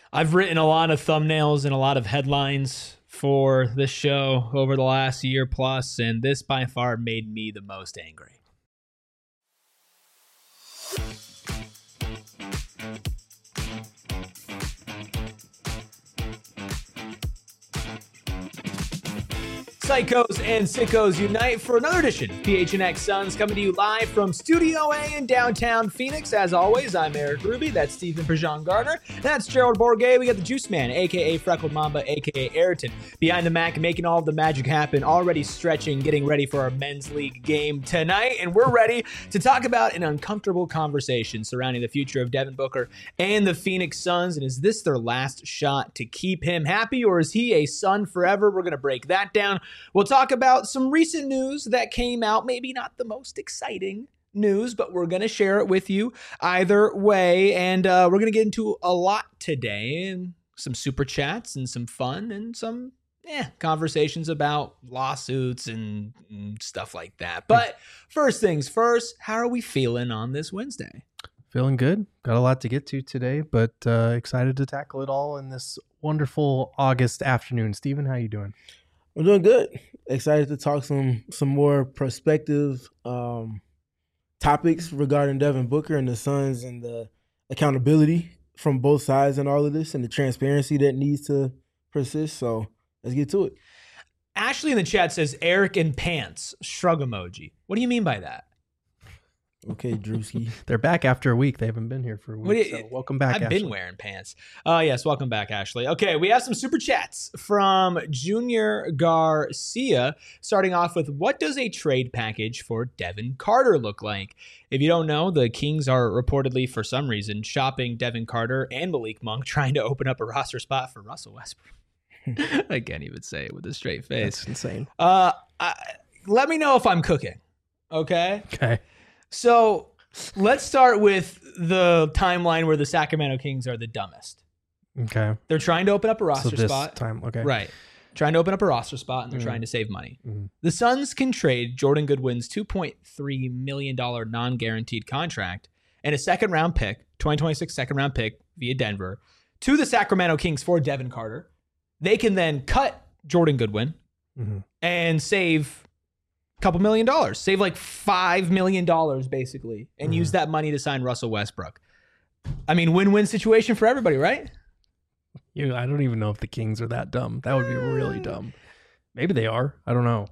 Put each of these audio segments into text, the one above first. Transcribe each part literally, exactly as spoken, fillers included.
I've written a lot of thumbnails and a lot of headlines for this show over the last year plus, and this by far made me the most angry. Psychos and sickos unite for another edition of P H N X Suns, coming to you live from Studio A in downtown Phoenix. As always, I'm Eric Ruby. That's Stephen Prejean Gardner. And that's Gerald Bourget. We got the Juice Man, a k a. Freckled Mamba, a k a. Ayrton, behind the Mac, making all of the magic happen, already stretching, getting ready for our men's league game tonight. And we're ready to talk about an uncomfortable conversation surrounding the future of Devin Booker and the Phoenix Suns. And is this their last shot to keep him happy, or is he a Sun forever? We're going to break that down. We'll talk about some recent news that came out, maybe not the most exciting news, but we're going to share it with you either way. And uh, we're going to get into a lot today, and some super chats and some fun and some eh, conversations about lawsuits and, and stuff like that. But first things first, how are we feeling on this Wednesday? Feeling good. Got a lot to get to today, but uh, excited to tackle it all in this wonderful August afternoon. Steven, how you doing? I'm doing good. Excited to talk some some more prospective um, topics regarding Devin Booker and the Suns and the accountability from both sides and all of this and the transparency that needs to persist. So let's get to it. Ashley in the chat says Eric in pants, shrug emoji. What do you mean by that? Okay, Drewski. They're back after a week. They haven't been here for a week, you, so welcome back, I've Ashley. been wearing pants. Uh, yes, welcome back, Ashley. Okay, we have some super chats from Junior Garcia, starting off with, what does a trade package for Devin Carter look like? If you don't know, the Kings are reportedly, for some reason, shopping Devin Carter and Malik Monk, trying to open up a roster spot for Russell Westbrook. I can't even say it with a straight face. That's insane. Uh, I, let me know if I'm cooking, okay? Okay. So let's start with the timeline where the Sacramento Kings are the dumbest. Okay. They're trying to open up a roster so this spot. time, okay. Right. Trying to open up a roster spot, and they're Mm-hmm. trying to save money. Mm-hmm. The Suns can trade Jordan Goodwin's two point three million dollars non-guaranteed contract and a second-round pick, twenty twenty-six second-round pick via Denver, to the Sacramento Kings for Devin Carter. They can then cut Jordan Goodwin Mm-hmm. and save couple million dollars, save like five million dollars basically, and Mm-hmm. use that money to sign Russell Westbrook. I mean, win-win situation for everybody, right? You, I don't even know if the Kings are that dumb. That would be really dumb. Maybe they are. I don't know.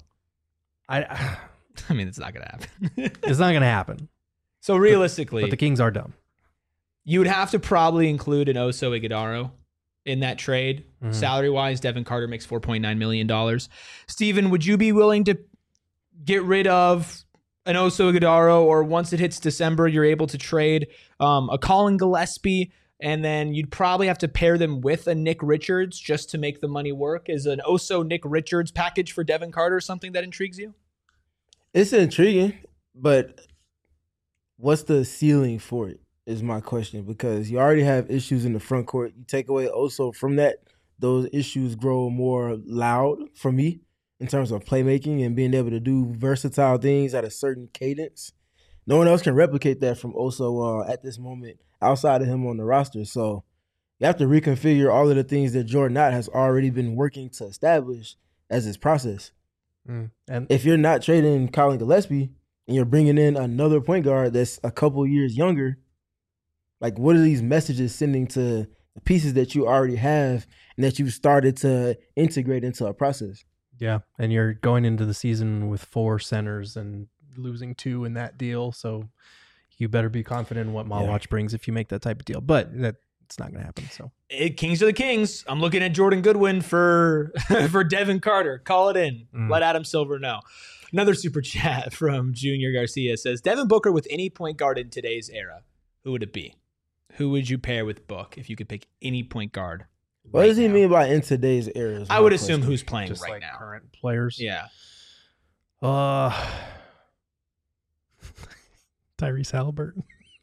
I. I mean, it's not going to happen. It's not going to happen. So realistically, But the Kings are dumb. you would have to probably include an Oso Iguodala in that trade. Mhm. Salary-wise, Devin Carter makes four point nine million dollars. Steven, would you be willing to get rid of an Oso Iguodala, or once it hits December, you're able to trade um, a Colin Gillespie, and then you'd probably have to pair them with a Nick Richards just to make the money work? Is an Oso Nick Richards package for Devin Carter something that intrigues you? It's intriguing, but what's the ceiling for it is my question, because you already have issues in the front court. You take away Oso from that, those issues grow more loud for me in terms of playmaking and being able to do versatile things at a certain cadence. No one else can replicate that from Oso uh, at this moment outside of him on the roster. So you have to reconfigure all of the things that Jordan Knott has already been working to establish as his process. Mm. And If you're not trading Colin Gillespie and you're bringing in another point guard that's a couple years younger, like, what are these messages sending to the pieces that you already have and that you've started to integrate into a process? yeah, and you're going into the season with four centers and losing two in that deal, so you better be confident in what Malwatch Yeah. brings if you make that type of deal. But that it's not going to happen. So It, Kings are the Kings. I'm looking at Jordan Goodwin for for Devin Carter. Call it in. Mm. Let Adam Silver know. Another super chat from Junior Garcia says, Devin Booker with any point guard in today's era, who would it be? Who would you pair with Book if you could pick any point guard? What right does he now? mean by in today's era? is I my would assume question. who's playing just right like now. current players. Yeah. Uh, Tyrese Halliburton.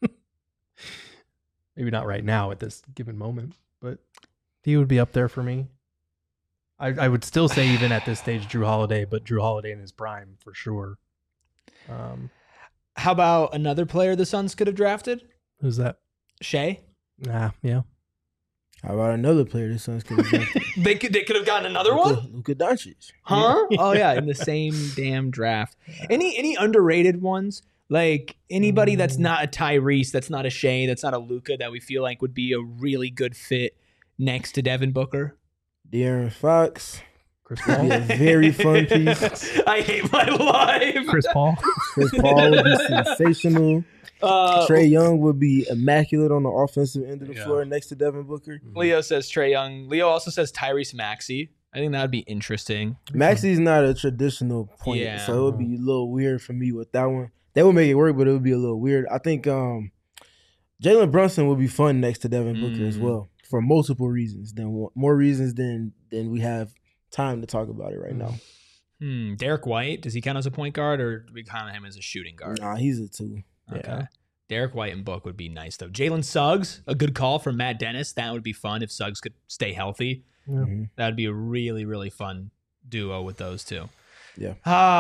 Maybe not right now at this given moment, but he would be up there for me. I, I would still say even at this stage, Drew Holiday, but Drew Holiday in his prime for sure. Um, How about another player the Suns could have drafted? who's that? Shea? Nah, yeah. How about another player the Suns could have drafted? They could they could have gotten another Luka, one? Luka Doncic. Huh? Oh yeah, in the same damn draft. Any any underrated ones? Like anybody that's not a Tyrese, that's not a Shea, that's not a Luka that we feel like would be a really good fit next to Devin Booker? De'Aaron Fox. Chris Would Paul. be a very fun piece. I hate my life. Chris Paul. Chris Paul would be sensational. Uh, Trae Young would be immaculate on the offensive end of the Yeah. floor next to Devin Booker. Leo says Trae Young. Leo also says Tyrese Maxey. I think that would be interesting. Maxey's not a traditional point, Yeah. so it would be a little weird for me with that one. They would make it work, but it would be a little weird. I think um, Jalen Brunson would be fun next to Devin Booker as Mm. well for multiple reasons. Than more reasons than than we have time to talk about it right now. Hmm. Derek White, does he count as a point guard, or do we count him as a shooting guard? Nah, he's a two. Okay. Yeah. Derek White and Book would be nice though. Jalen Suggs, a good call from Matt Dennis. That would be fun if Suggs could stay healthy. Yeah. Mhm. That would be a really, really fun duo with those two. Yeah.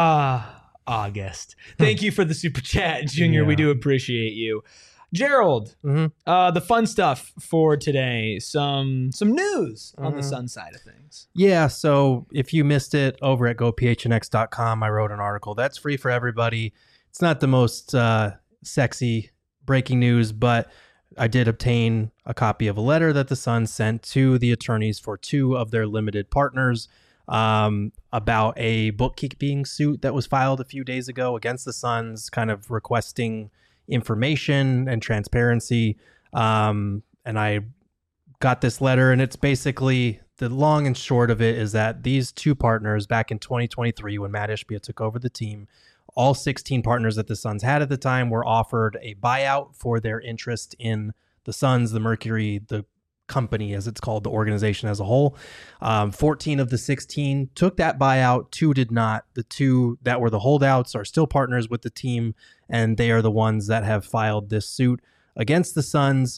Ah, August. Thank you for the super chat, Junior. We Yeah. do appreciate you. Gerald, Mhm. uh, the fun stuff for today. Some some news on the Mhm. Sun side of things. Yeah, so if you missed it over at go p h n x dot com, I wrote an article that's free for everybody. It's not the most uh, sexy breaking news, but I did obtain a copy of a letter that the Suns sent to the attorneys for two of their limited partners um, about a bookkeeping suit that was filed a few days ago against the Suns, kind of requesting information and transparency. Um, and I got this letter, and it's basically the long and short of it is that these two partners back in twenty twenty-three, when Matt Ishbia took over the team, all sixteen partners that the Suns had at the time were offered a buyout for their interest in the Suns, the Mercury, the company, as it's called, the organization as a whole. Um, fourteen of the sixteen took that buyout. Two did not. The two that were the holdouts are still partners with the team, and they are the ones that have filed this suit against the Suns.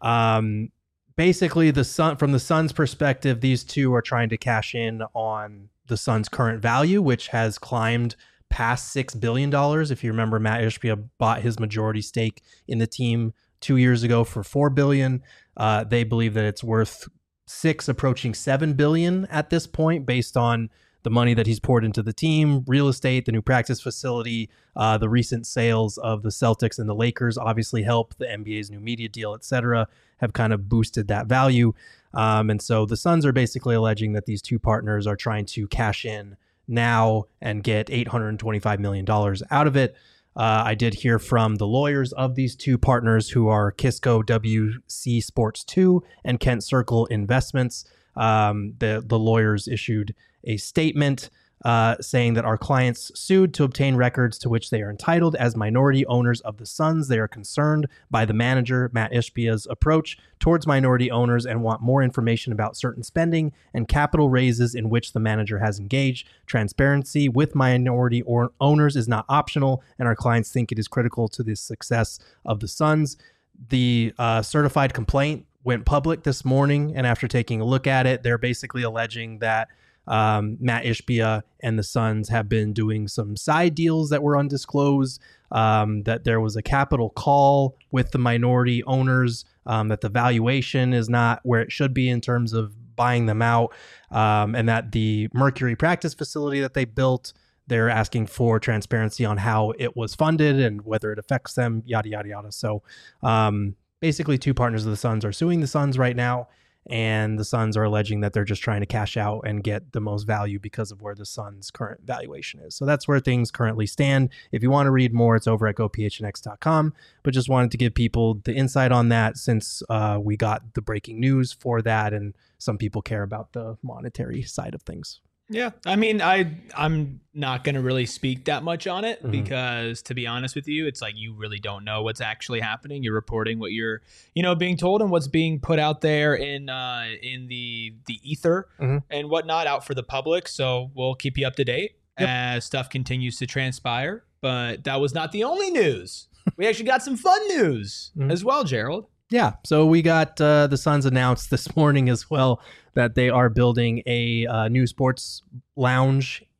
Um, basically, the Sun, from the Suns' perspective, these two are trying to cash in on the Suns' current value, which has climbed past six billion dollars. If you remember, Matt Ishbia bought his majority stake in the team two years ago for four billion dollars. Uh, they believe that it's worth six, approaching seven billion dollars at this point, based on the money that he's poured into the team, real estate, the new practice facility, uh, the recent sales of the Celtics and the Lakers obviously help. The N B A's new media deal, et cetera, have kind of boosted that value. Um, and so the Suns are basically alleging that these two partners are trying to cash in now and get eight hundred twenty-five million dollars out of it. Uh, I did hear from the lawyers of these two partners, who are Kisco W C Sports two and Kent Circle Investments. Um, the, the lawyers issued a statement uh, saying that our clients sued to obtain records to which they are entitled as minority owners of the Suns. They are concerned by the manager, Matt Ishbia's approach towards minority owners, and want more information about certain spending and capital raises in which the manager has engaged. Transparency with minority or owners is not optional, and our clients think it is critical to the success of the Suns. The uh, certified complaint went public this morning, and after taking a look at it, they're basically alleging that Um, Matt Ishbia and the Suns have been doing some side deals that were undisclosed, um, that there was a capital call with the minority owners, um, that the valuation is not where it should be in terms of buying them out, um, and that the Mercury practice facility that they built, they're asking for transparency on how it was funded and whether it affects them, yada, yada, yada. So um, basically two partners of the Suns are suing the Suns right now. And the Suns are alleging that they're just trying to cash out and get the most value because of where the Suns' current valuation is. So that's where things currently stand. If you want to read more, it's over at go p h n x dot com. But just wanted to give people the insight on that, since uh, we got the breaking news for that, and some people care about the monetary side of things. Yeah, I mean, I I'm not gonna really speak that much on it, Mhm. because to be honest with you, it's like you really don't know what's actually happening. You're reporting what you're, you know, being told and what's being put out there in uh, in the the ether Mhm. and whatnot out for the public. So we'll keep you up to date Yep. as stuff continues to transpire. But that was not the only news. We actually got some fun news Mhm. as well, Gerald. Yeah, so we got uh, the Suns announced this morning as well that they are building a uh, new sports lounge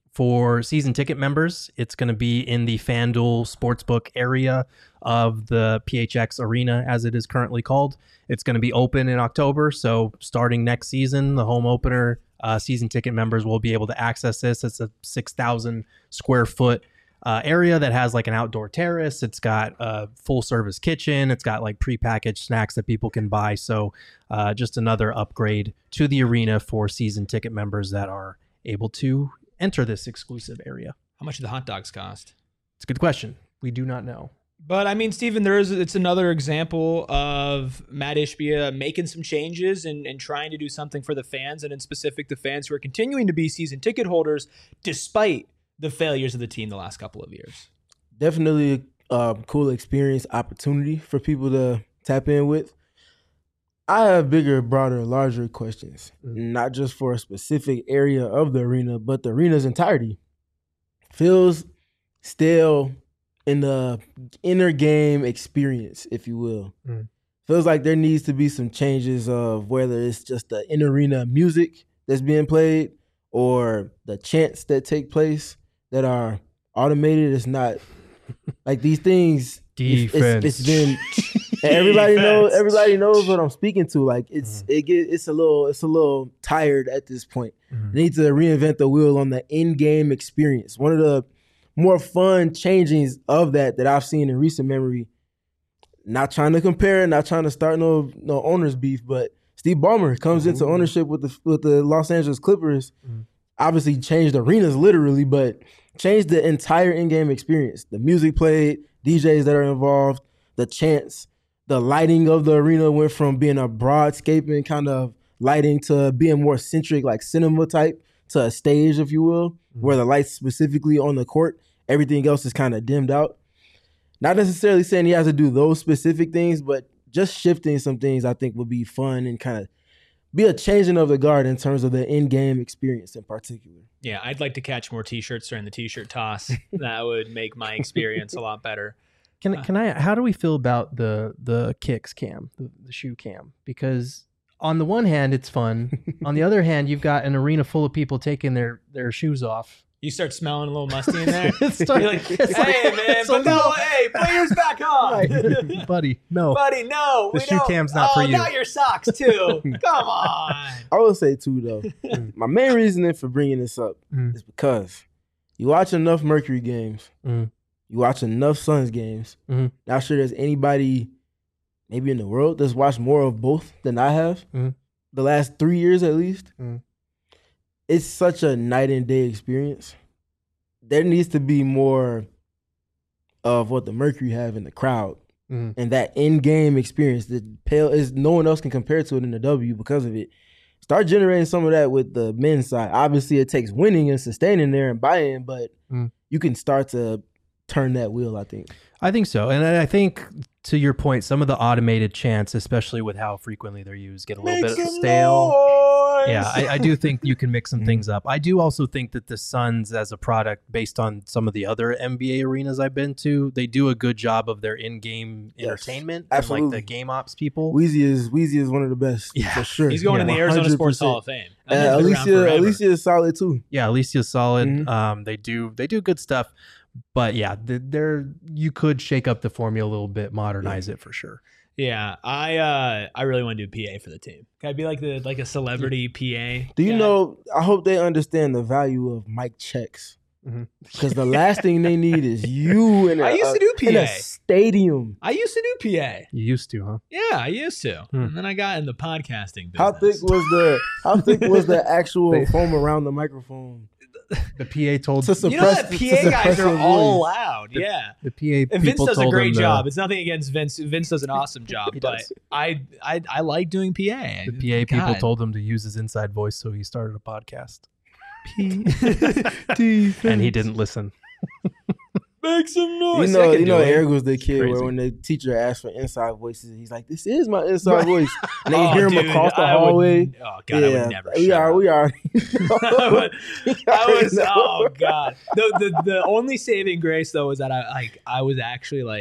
For season ticket members, it's going to be in the FanDuel Sportsbook area of the P H X Arena, as it is currently called. It's going to be open in October, so starting next season, the home opener, uh, season ticket members will be able to access this. It's a six thousand square foot uh, area that has like an outdoor terrace. It's got a full service kitchen. It's got like prepackaged snacks that people can buy. So uh, just another upgrade to the arena for season ticket members that are able to enter this exclusive area. How much do the hot dogs cost? It's a good question. We do not know. But I mean, Stephen, there is it's another example of Matt Ishbia making some changes and, and trying to do something for the fans, and in specific the fans who are continuing to be season ticket holders despite the failures of the team the last couple of years. Definitely a uh, cool experience, opportunity for people to tap in with. I have bigger, broader, larger questions, mm-hmm. not just for a specific area of the arena, but the arena's entirety. Feels stale in the inner game experience, if you will. Mm-hmm. Feels like there needs to be some changes of whether it's just the in-arena music that's being played or the chants that take place that are automated. It's not like these things. Defense. It's, it's been. And everybody knows. Everybody knows what I'm speaking to. Like it's mm-hmm. it get it's a little it's a little tired at this point. Mm-hmm. They need to reinvent the wheel on the in-game experience. One of the more fun changings of that that I've seen in recent memory. Not trying to compare, not trying to start no no owners beef, but Steve Ballmer comes mm-hmm. into ownership with the with the Los Angeles Clippers. Mm-hmm. Obviously changed arenas literally, but changed the entire in-game experience. The music played, D Js that are involved, the chants. The lighting of the arena went from being a broadscaping kind of lighting to being more centric, like cinema type, to a stage, if you will, mm-hmm. where the lights specifically on the court, everything else is kind of dimmed out. Not necessarily saying he has to do those specific things, but just shifting some things I think would be fun and kind of be a changing of the guard in terms of the in-game experience in particular. Yeah, I'd like to catch more T-shirts during the T-shirt toss. That would make my experience a lot better. Can can I? How do we feel about the the kicks cam, the, the shoe cam? Because on the one hand, it's fun. On the other hand, you've got an arena full of people taking their, their shoes off. You start smelling a little musty in there. Start, You're like, hey like, man, but no, hey, put yours back on, right. buddy. No, buddy, no. The we shoe don't. cam's not oh, for you. Not your socks too. Come on. I will say too though, my main reasoning for bringing this up mm. is because you watch enough Mercury games. Mm. You watch enough Suns games. Mm-hmm. Not sure there's anybody maybe in the world that's watched more of both than I have. Mm-hmm. The last three years at least. Mm-hmm. It's such a night and day experience. There needs to be more of what the Mercury have in the crowd. Mm-hmm. And that in-game experience that pale is no one else can compare to it in the W because of it. Start generating some of that with the men's side. Obviously, it takes winning and sustaining there and buy-in, but mm-hmm. you can start to turn that wheel, I think. I think so. And I think, to your point, some of the automated chants, especially with how frequently they're used, get a little Make bit stale. Noise. Yeah, I, I do think you can mix some things up. I do also think that the Suns as a product, based on some of the other N B A arenas I've been to, they do a good job of their in-game yes, entertainment. Absolutely. And like the game ops people. Weezy is Weezy is one of the best, yeah. for sure. He's going yeah, in the Arizona one hundred percent. Sports Hall of Fame. Uh, Alicia, Alicia is solid too. Yeah, Alicia's solid. Mm-hmm. Um, they do they do good stuff. But yeah, there you could shake up the formula a little bit, modernize yeah. it for sure. Yeah, I uh, I really want to do P A for the team. Can I be like the like a celebrity P A? Do you guy? know? I hope they understand the value of mic checks because mm-hmm. the last thing they need is you in a, I used to do P A in a stadium. I used to do P A. You used to, huh? Yeah, I used to, hmm. and then I got in the podcasting business. How thick was the How thick was the actual foam around the microphone? The P A told to suppress, you know that P A guys are all loud. The, yeah, the P A and Vince people does a told great him job. to, it's nothing against Vince. Vince does an awesome job, but does. I, I I like doing P A. The P A God. people told him to use his inside voice, so he started a podcast. P and he didn't listen. Make some noise. You know, you know, Eric was the kid Crazy. where when the teacher asked for inside voices, he's like, "This is my inside voice," and then you oh, hear him dude, across the I hallway. Would, oh God, yeah, I would never. We are, we are. I, would, I was. Oh God. The, the the only saving grace though was that I like I was actually like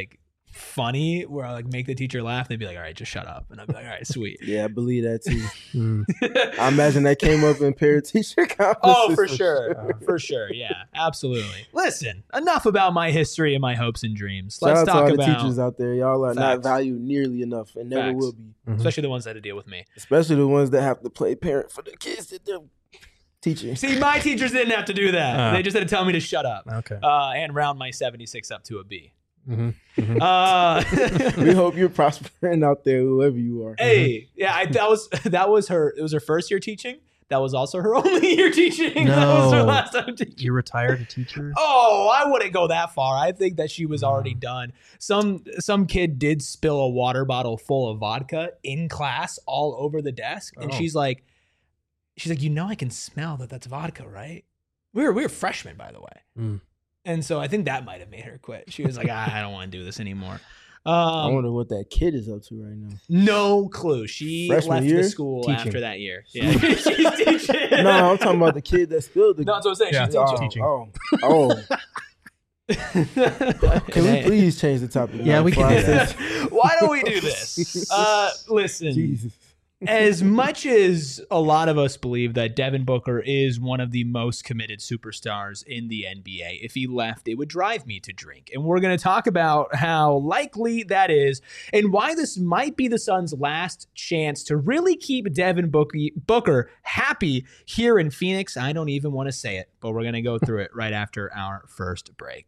funny where I like make the teacher laugh. They'd be like, all right, just shut up. And I'd be like, all right, sweet. Yeah, I believe that too. Mm. I imagine that came up in parent-teacher conferences. Oh, for sure. For sure. Yeah, absolutely. Listen, enough about my history and my hopes and dreams. Shout Let's out talk to all about the teachers out there. Y'all are not Facts. valued nearly enough and never Facts. will be. Mhm. especially the ones that had to deal with me. Especially the ones that have to play parent for the kids that they're teaching. See, my teachers didn't have to do that. Uh. They just had to tell me to shut up Okay. uh, and round my seventy-six up to a B. Mhm. Mhm. Uh, We hope you're prospering out there, whoever you are. hey, yeah, I, that was that was her. It was her first year teaching. That was also her only year teaching. That was her No. last time teaching. You retired a teacher? Oh, I wouldn't go that far. I think that she was already done. Some some kid did spill a water bottle full of vodka in class all over the desk, and Oh. she's like, she's like, you know, I can smell that that's vodka, right? We were we were freshmen, by the way, Mm. and so I think that might have made her quit. She was like, ah, I don't want to do this anymore. I Um, wonder what that kid is up to right now. no clue. She Freshman left year? the school Teaching. after that year. Yeah, she's teaching. No, I'm talking about the kid that spilled the. No, that's what I'm saying. Yeah. She's oh, teaching. oh, oh. teaching. Can we please change the topic? Yeah, now we before can I do say- that. Why don't we do this? Uh, listen, Jesus. as much as a lot of us believe that Devin Booker is one of the most committed superstars in the N B A, if he left, it would drive me to drink. And we're going to talk about how likely that is and why this might be the Suns' last chance to really keep Devin Booker happy here in Phoenix. I don't even want to say it, but we're going to go through it right after our first break.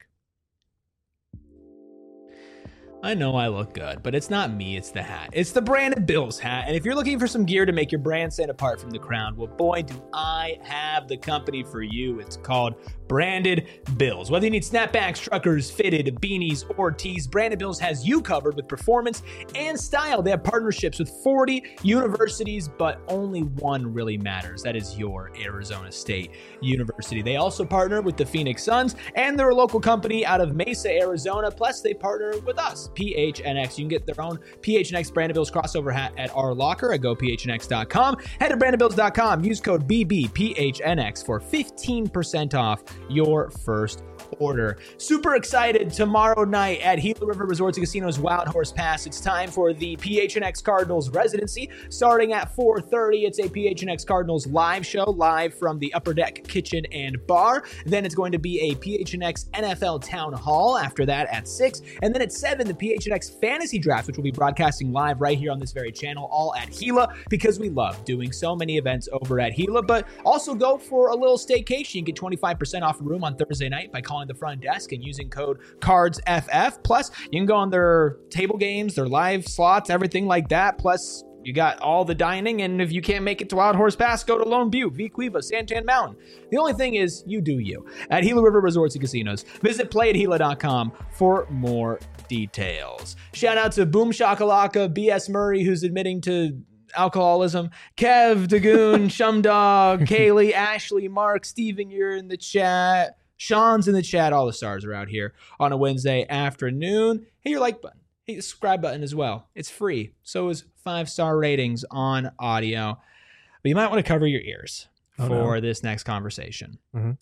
I know I look good, but it's not me, it's the hat. It's the Branded Bills hat, and if you're looking for some gear to make your brand stand apart from the crowd, well, boy, do I have the company for you. It's called Branded Bills. Whether you need snapbacks, truckers, fitted, beanies, or tees, Branded Bills has you covered with performance and style. They have partnerships with forty universities, but only one really matters. That is your Arizona State University. They also partner with the Phoenix Suns, and they're a local company out of Mesa, Arizona. Plus, they partner with us, P H N X. You can get their own P H N X Branded Bills crossover hat at our locker at go p h n x dot com. Head to branded bills dot com. Use code B B P H N X for fifteen percent off your first order. Super excited tomorrow night at Gila River Resorts and Casinos Wild Horse Pass. It's time for the P H N X Cardinals residency starting at four thirty. It's a P H N X Cardinals live show live from the Upper Deck Kitchen and Bar. Then it's going to be a P H N X N F L Town Hall after that at six. And then at seven, the P H N X Fantasy Draft, which will be broadcasting live right here on this very channel, all at Gila, because we love doing so many events over at Gila. But also go for a little staycation. You can get twenty-five percent off a room on Thursday night by calling the front desk and using code CARDSFF. Plus, you can go on their table games, their live slots, everything like that. Plus, you got all the dining, and if you can't make it to Wild Horse Pass, go to Lone Butte, V Cueva, Santan Mountain. The only thing is, you do you. At Gila River Resorts and Casinos. Visit play at gila dot com for more details. Shout out to Boom Shakalaka, B S Murray, who's admitting to alcoholism, Kev, Dagoon, Shumdog, Kaylee, Ashley, Mark, Steven, you're in the chat. Sean's in the chat. All the stars are out here on a Wednesday afternoon. Hit your like button. Hit the subscribe button as well. It's free. So is five-star ratings on audio. But you might want to cover your ears Oh, for no. this next conversation. Mhm.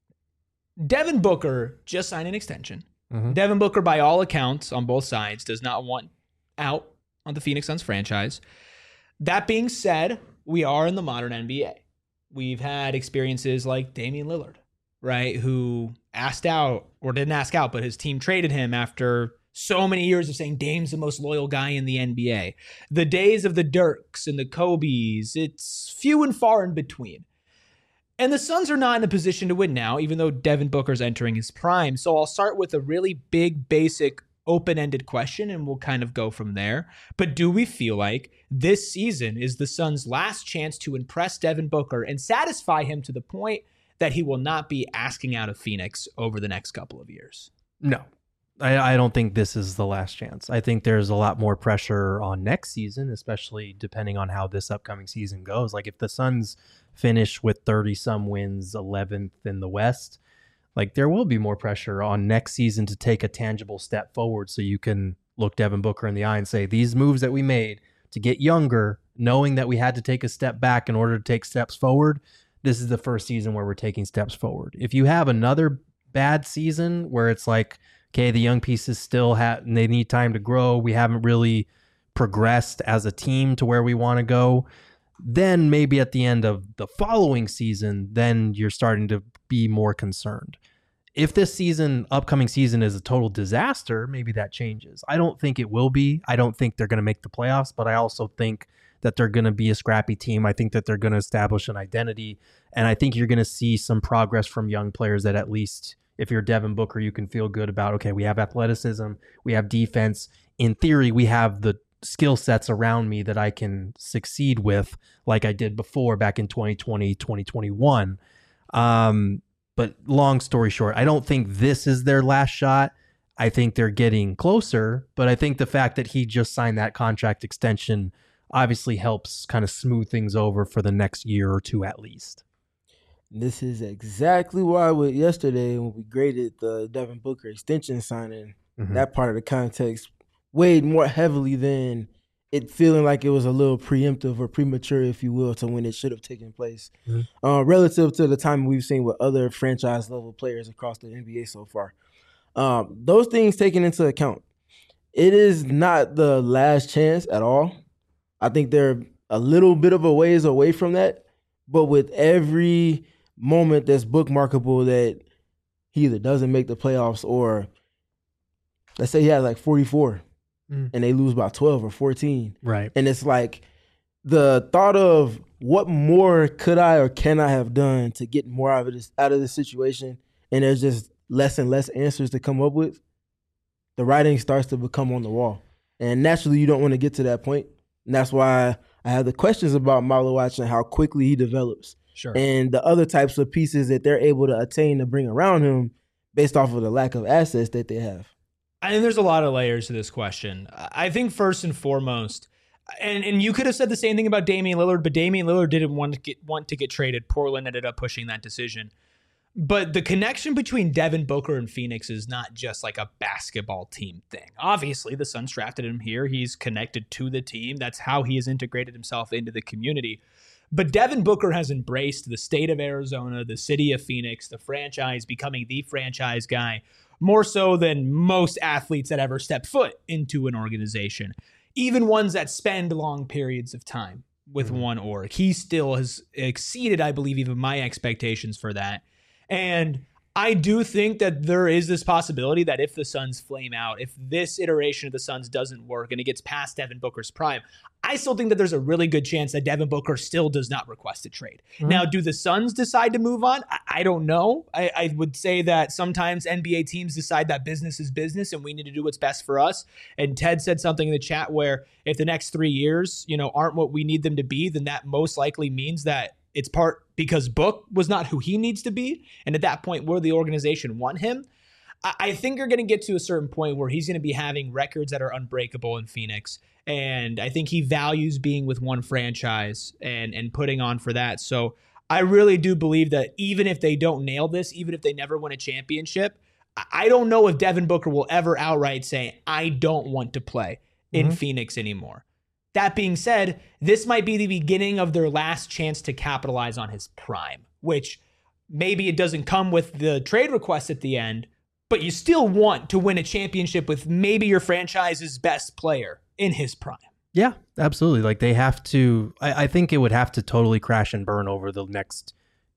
Devin Booker just signed an extension. Mhm. Devin Booker, by all accounts, on both sides, does not want out on the Phoenix Suns franchise. That being said, we are in the modern N B A. We've had experiences like Damian Lillard, right, who asked out, or didn't ask out, but his team traded him after so many years of saying Dame's the most loyal guy in the N B A. The days of the Dirks and the Kobes, it's few and far in between. And the Suns are not in a position to win now, even though Devin Booker's entering his prime. So I'll start with a really big, basic, open-ended question, and we'll kind of go from there. But do we feel like this season is the Suns' last chance to impress Devin Booker and satisfy him to the point that he will not be asking out of Phoenix over the next couple of years? No, I, I don't think this is the last chance. I think there's a lot more pressure on next season, especially depending on how this upcoming season goes. Like if the Suns finish with thirty some wins, eleventh in the West, like there will be more pressure on next season to take a tangible step forward so you can look Devin Booker in the eye and say, these moves that we made to get younger, knowing that we had to take a step back in order to take steps forward, this is the first season where we're taking steps forward. If you have another bad season where it's like, okay, the young pieces still have, they need time to grow. We haven't really progressed as a team to where we want to go. Then maybe at the end of the following season, then you're starting to be more concerned. If this season, upcoming season is a total disaster, maybe that changes. I don't think it will be. I don't think they're going to make the playoffs, but I also think that they're going to be a scrappy team. I think that they're going to establish an identity, and I think you're going to see some progress from young players that at least if you're Devin Booker, you can feel good about, okay, we have athleticism, we have defense. In theory, we have the skill sets around me that I can succeed with like I did before back in twenty twenty, twenty twenty-one. Um, but long story short, I don't think this is their last shot. I think they're getting closer, but I think the fact that he just signed that contract extension obviously helps kind of smooth things over for the next year or two at least. This is exactly why with yesterday when we graded the Devin Booker extension signing, mm-hmm. that part of the context weighed more heavily than it feeling like it was a little preemptive or premature, if you will, to when it should have taken place, mm-hmm. uh, relative to the time we've seen with other franchise-level players across the N B A so far. Um, those things taken into account, it is not the last chance at all. I think they're a little bit of a ways away from that, but with every moment that's bookmarkable that he either doesn't make the playoffs or let's say he had like forty-four mm. and they lose by twelve or fourteen. Right. And it's like the thought of what more could I or can I have done to get more out of this, out of this situation, and there's just less and less answers to come up with, the writing starts to become on the wall. And naturally you don't want to get to that point. And that's why I have the questions about Malawachi and how quickly he develops. Sure. And the other types of pieces that they're able to attain to bring around him based off of the lack of assets that they have. I think there's a lot of layers to this question. I think first and foremost, and, and you could have said the same thing about Damian Lillard, but Damian Lillard didn't want to get want to get traded. Portland ended up pushing that decision. But the connection between Devin Booker and Phoenix is not just like a basketball team thing. Obviously, the Suns drafted him here. He's connected to the team. That's how he has integrated himself into the community. But Devin Booker has embraced the state of Arizona, the city of Phoenix, the franchise, becoming the franchise guy, more so than most athletes that ever step foot into an organization, even ones that spend long periods of time with mm-hmm. one org. He still has exceeded, I believe, even my expectations for that. And I do think that there is this possibility that if the Suns flame out, if this iteration of the Suns doesn't work and it gets past Devin Booker's prime, I still think that there's a really good chance that Devin Booker still does not request a trade. Mm-hmm. Now, do the Suns decide to move on? I, I don't know. I, I would say that sometimes N B A teams decide that business is business and we need to do what's best for us. And Ted said something in the chat where if the next three years, you know, aren't what we need them to be, then that most likely means that it's part because Book was not who he needs to be. And at that point, where the organization want him, I, I think you're going to get to a certain point where he's going to be having records that are unbreakable in Phoenix. And I think he values being with one franchise and, and putting on for that. So I really do believe that even if they don't nail this, even if they never win a championship, I don't know if Devin Booker will ever outright say, I don't want to play in mm-hmm. Phoenix anymore. That being said, this might be the beginning of their last chance to capitalize on his prime, which maybe it doesn't come with the trade request at the end, but you still want to win a championship with maybe your franchise's best player in his prime. Yeah, absolutely. Like they have to, I, I think it would have to totally crash and burn over the next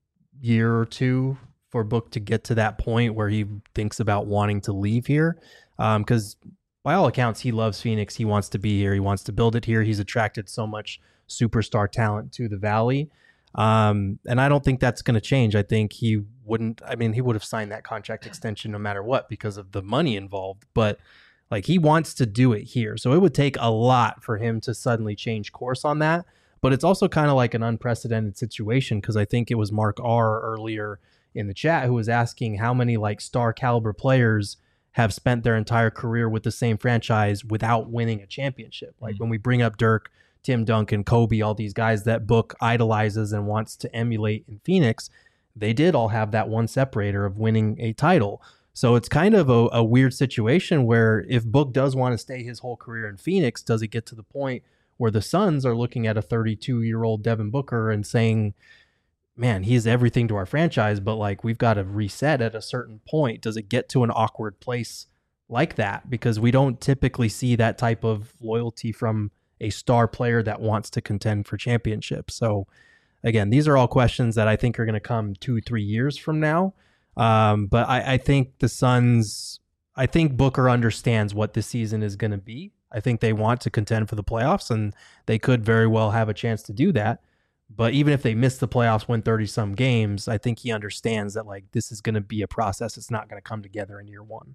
year or two for Book to get to that point where he thinks about wanting to leave here. Um, because by all accounts, he loves Phoenix. He wants to be here. He wants to build it here. He's attracted so much superstar talent to the Valley. Um, and I don't think that's going to change. I think he wouldn't, I mean, he would have signed that contract extension no matter what because of the money involved, but like he wants to do it here. So it would take a lot for him to suddenly change course on that. But it's also kind of like an unprecedented situation because I think it was Mark R earlier in the chat who was asking how many like star caliber players have spent their entire career with the same franchise without winning a championship. Like mm-hmm. when we bring up Dirk, Tim Duncan, Kobe, all these guys that Book idolizes and wants to emulate in Phoenix, they did all have that one separator of winning a title. So it's kind of a, a weird situation where if Book does want to stay his whole career in Phoenix, does it get to the point where the Suns are looking at a thirty-two-year-old Devin Booker and saying, man, he is everything to our franchise, but like we've got to reset at a certain point. Does it get to an awkward place like that because we don't typically see that type of loyalty from a star player that wants to contend for championships. So again, these are all questions that I think are going to come two, three years from now. Um, but I, I think the Suns, I think Booker understands what this season is going to be. I think they want to contend for the playoffs, and they could very well have a chance to do that. But even if they miss the playoffs, win thirty some games, I think he understands that like this is going to be a process. It's not going to come together in year one.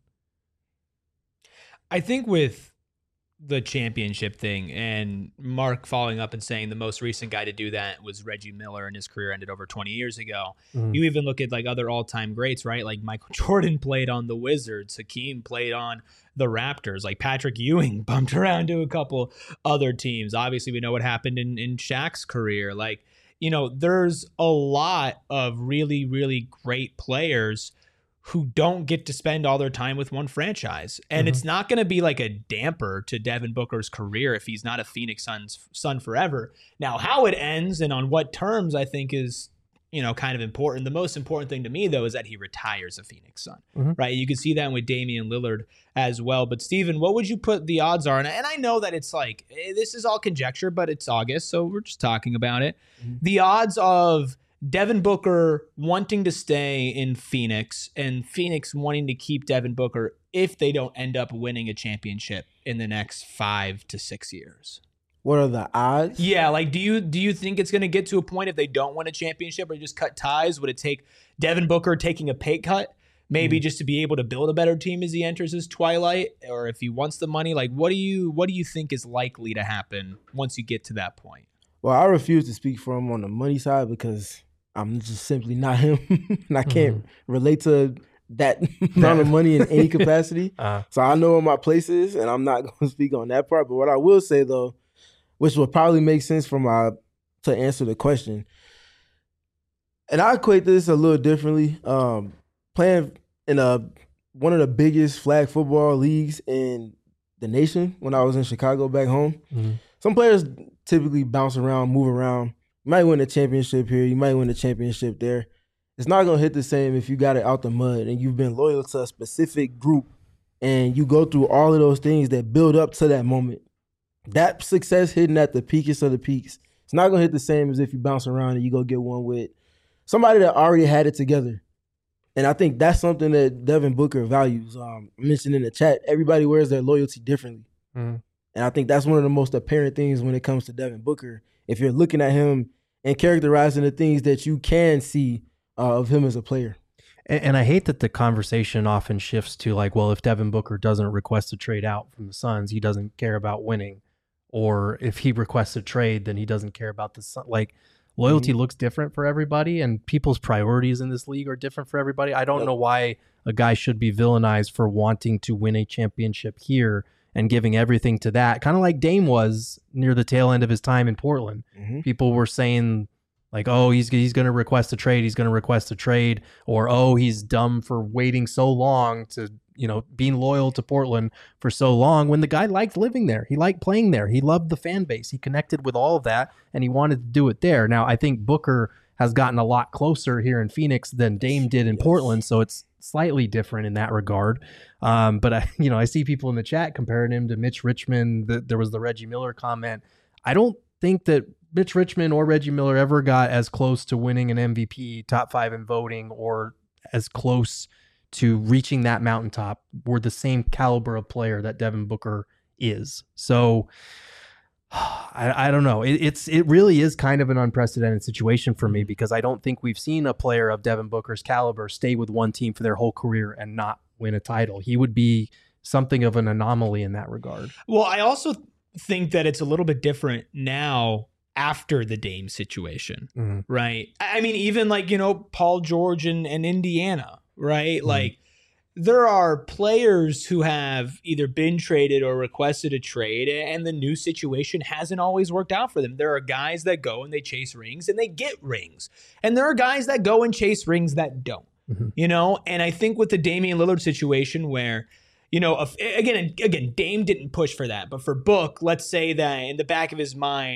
I think with the championship thing and Mark following up and saying the most recent guy to do that was Reggie Miller, and his career ended over twenty years ago. Mm. You even look at like other all-time greats, right? Like Michael Jordan played on the Wizards. Hakeem played on the Raptors. Like Patrick Ewing bumped around to a couple other teams. Obviously, we know what happened in, in Shaq's career. Like, you know, there's a lot of really, really great players who don't get to spend all their time with one franchise. And mm-hmm. it's not going to be like a damper to Devin Booker's career if he's not a Phoenix Suns Sun forever. Now, how it ends and on what terms, I think is, you know, kind of important. The most important thing to me, though, is that he retires a Phoenix Sun, mm-hmm. right? You can see that with Damian Lillard as well. But Steven, what would you put the odds are? And, and I know that it's like, this is all conjecture, but it's August, so we're just talking about it. Mm-hmm. The odds of Devin Booker wanting to stay in Phoenix and Phoenix wanting to keep Devin Booker if they don't end up winning a championship in the next five to six years. What are the odds? Yeah, like do you do you think it's going to get to a point if they don't win a championship or just cut ties? Would it take Devin Booker taking a pay cut, maybe mm. just to be able to build a better team as he enters his twilight, or if he wants the money? Like, what do you what do you think is likely to happen once you get to that point? Well, I refuse to speak for him on the money side because I'm just simply not him, and I can't mm-hmm. relate to that amount of money in any capacity. Uh-huh. So I know what my place is, and I'm not going to speak on that part. But what I will say, though, which will probably make sense for my to answer the question, and I equate this a little differently. Um, playing in a one of the biggest flag football leagues in the nation when I was in Chicago back home, mm-hmm. some players typically bounce around, move around. You might win a championship here. You might win a championship there. It's not going to hit the same if you got it out the mud and you've been loyal to a specific group and you go through all of those things that build up to that moment. That success hitting at the peakest of the peaks, it's not going to hit the same as if you bounce around and you go get one with somebody that already had it together. And I think that's something that Devin Booker values. Um, I mentioned in the chat, everybody wears their loyalty differently. Mm. And I think that's one of the most apparent things when it comes to Devin Booker. If you're looking at him and characterizing the things that you can see uh, of him as a player. And, and I hate that the conversation often shifts to like, well, if Devin Booker doesn't request a trade out from the Suns, he doesn't care about winning. Or if he requests a trade, then he doesn't care about the Suns. Like, loyalty mm-hmm. looks different for everybody, and people's priorities in this league are different for everybody. I don't yep. know why a guy should be villainized for wanting to win a championship here and giving everything to that, kind of like Dame was near the tail end of his time in Portland. Mm-hmm. People were saying like, oh, he's he's going to request a trade. He's going to request a trade. Or, oh, he's dumb for waiting so long to, you know, being loyal to Portland for so long when the guy liked living there. He liked playing there. He loved the fan base. He connected with all of that, and he wanted to do it there. Now, I think Booker has gotten a lot closer here in Phoenix than Dame did in yes. Portland, so it's slightly different in that regard. Um, but I, you know, I see people in the chat comparing him to Mitch Richmond. The, there was the Reggie Miller comment. I don't think that Mitch Richmond or Reggie Miller ever got as close to winning an M V P, top five in voting, or as close to reaching that mountaintop. Were the same caliber of player that Devin Booker is. So I, I don't know. It, it's it really is kind of an unprecedented situation for me because I don't think we've seen a player of Devin Booker's caliber stay with one team for their whole career and not win a title. He would be something of an anomaly in that regard. Well, I also think that it's a little bit different now after the Dame situation, mm-hmm. right? I mean, even like, you know, Paul George and, and Indiana, right? Mm-hmm. Like, there are players who have either been traded or requested a trade, and the new situation hasn't always worked out for them. There are guys that go and they chase rings and they get rings. And there are guys that go and chase rings that don't, mm-hmm. you know? And I think with the Damian Lillard situation where, you know, if, again, again, Dame didn't push for that. But for Book, let's say that in the back of his mind,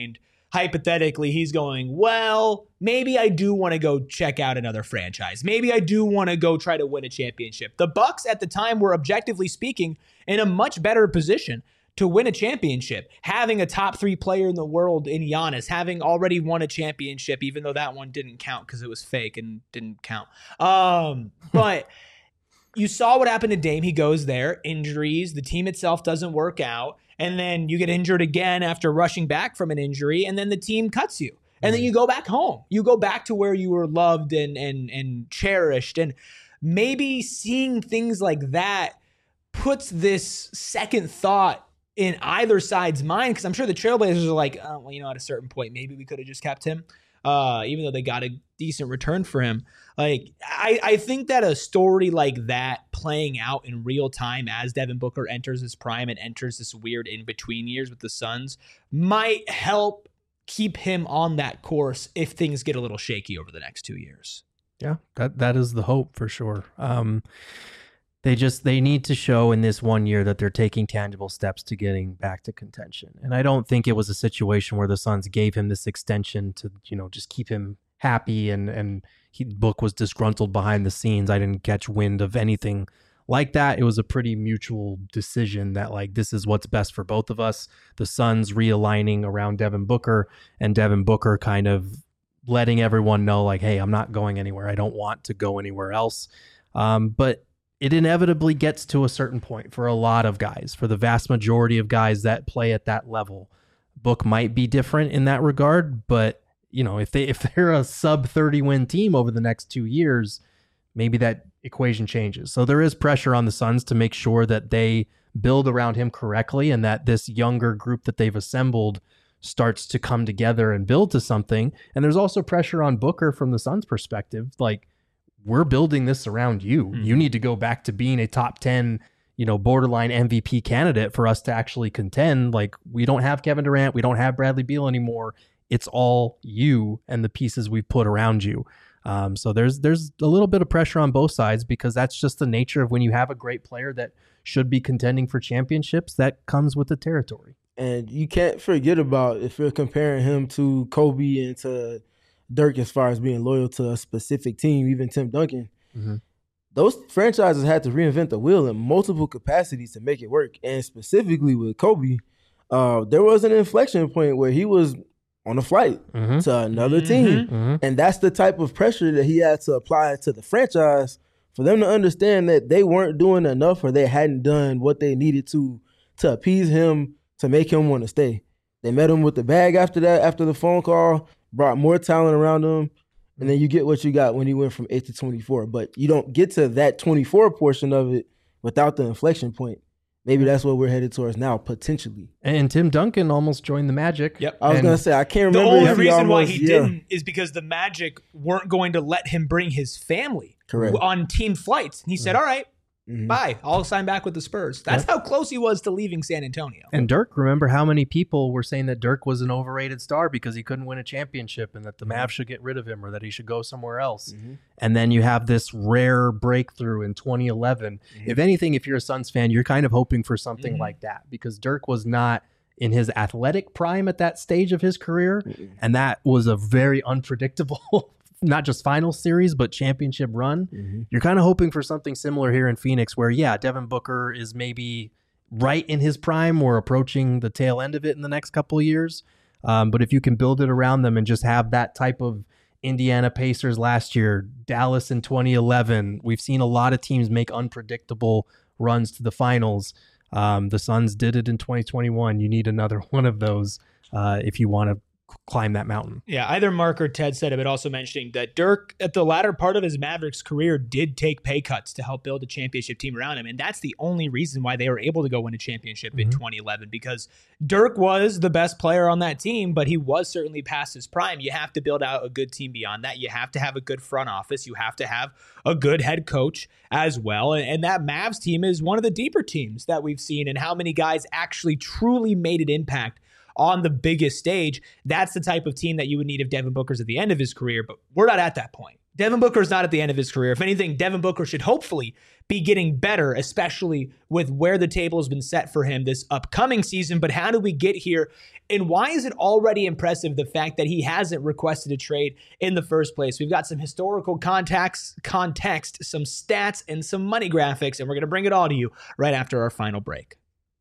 hypothetically, he's going, well, maybe I do want to go check out another franchise. Maybe I do want to go try to win a championship. The Bucks at the time were, objectively speaking, in a much better position to win a championship, having a top three player in the world in Giannis, having already won a championship, even though that one didn't count because it was fake and didn't count. Um, but you saw what happened to Dame. He goes there, injuries, the team itself doesn't work out, and then you get injured again after rushing back from an injury, and then the team cuts you. And then you go back home. You go back to where you were loved and and and cherished. And maybe seeing things like that puts this second thought in either side's mind, because I'm sure the Trailblazers are like, oh, well, you know, at a certain point, maybe we could have just kept him, uh, even though they got a decent return for him. Like, I, I think that a story like that playing out in real time as Devin Booker enters his prime and enters this weird in-between years with the Suns might help keep him on that course if things get a little shaky over the next two years. Yeah, that that is the hope for sure. Um, They just, they need to show in this one year that they're taking tangible steps to getting back to contention. And I don't think it was a situation where the Suns gave him this extension to, you know, just keep him happy and, and he, Book was disgruntled behind the scenes. I didn't catch wind of anything like that. It was a pretty mutual decision that, like, this is what's best for both of us. The Suns realigning around Devin Booker and Devin Booker kind of letting everyone know, like, hey, I'm not going anywhere. I don't want to go anywhere else. Um, but it inevitably gets to a certain point for a lot of guys, for the vast majority of guys that play at that level. Book might be different in that regard, but you know, if they if they're a sub thirty win team over the next two years, maybe that equation changes. So there is pressure on the Suns to make sure that they build around him correctly and that this younger group that they've assembled starts to come together and build to something. And there's also pressure on Booker from the Suns' perspective, like, we're building this around you. Mm-hmm. You need to go back to being a top ten, you know, borderline M V P candidate for us to actually contend. Like, we don't have Kevin Durant. We don't have Bradley Beal anymore. It's all you and the pieces we've put around you. Um, so there's, there's a little bit of pressure on both sides, because that's just the nature of when you have a great player that should be contending for championships, that comes with the territory. And you can't forget about, if you're comparing him to Kobe and to Dirk as far as being loyal to a specific team, even Tim Duncan, mm-hmm. those franchises had to reinvent the wheel in multiple capacities to make it work. And specifically with Kobe, uh, there was an inflection point where he was on a flight mm-hmm. to another mm-hmm. team. Mm-hmm. And that's the type of pressure that he had to apply to the franchise for them to understand that they weren't doing enough, or they hadn't done what they needed to to appease him, to make him want to stay. They met him with the bag after that, after the phone call, brought more talent around him, and then you get what you got when he went from eight to twenty-four. But you don't get to that twenty-four portion of it without the inflection point. Maybe that's what we're headed towards now, potentially. And Tim Duncan almost joined the Magic. Yep. I was going to say, I can't remember. The only if he reason almost, why he yeah. didn't is because the Magic weren't going to let him bring his family Correct. on team flights. And he said, all right, mm-hmm. bye. I'll sign back with the Spurs. That's yep. how close he was to leaving San Antonio. And Dirk, remember how many people were saying that Dirk was an overrated star because he couldn't win a championship and that the Mavs should get rid of him or that he should go somewhere else. Mm-hmm. And then you have this rare breakthrough in twenty eleven. Mm-hmm. If anything, if you're a Suns fan, you're kind of hoping for something mm-hmm. like that, because Dirk was not in his athletic prime at that stage of his career. Mm-hmm. And that was a very unpredictable not just final series, but championship run. Mm-hmm. You're kind of hoping for something similar here in Phoenix where, yeah, Devin Booker is maybe right in his prime or approaching the tail end of it in the next couple of years. Um, but if you can build it around them and just have that type of Indiana Pacers last year, Dallas in twenty eleven, we've seen a lot of teams make unpredictable runs to the finals. Um, the Suns did it in twenty twenty-one. You need another one of those uh, if you want to climb that mountain. Yeah, either Mark or Ted said it, but also mentioning that Dirk, at the latter part of his Mavericks career, did take pay cuts to help build a championship team around him. And that's the only reason why they were able to go win a championship mm-hmm. in twenty eleven, because Dirk was the best player on that team, but he was certainly past his prime. You have to build out a good team beyond that. You have to have a good front office. You have to have a good head coach as well. And, and that Mavs team is one of the deeper teams that we've seen, and how many guys actually truly made an impact on the biggest stage. That's the type of team that you would need if Devin Booker's at the end of his career, but we're not at that point. Devin Booker is not at the end of his career. If anything, Devin Booker should hopefully be getting better, especially with where the table has been set for him this upcoming season. But how did we get here? And why is it already impressive, the fact that he hasn't requested a trade in the first place? We've got some historical context, context, some stats, and some money graphics, and we're going to bring it all to you right after our final break.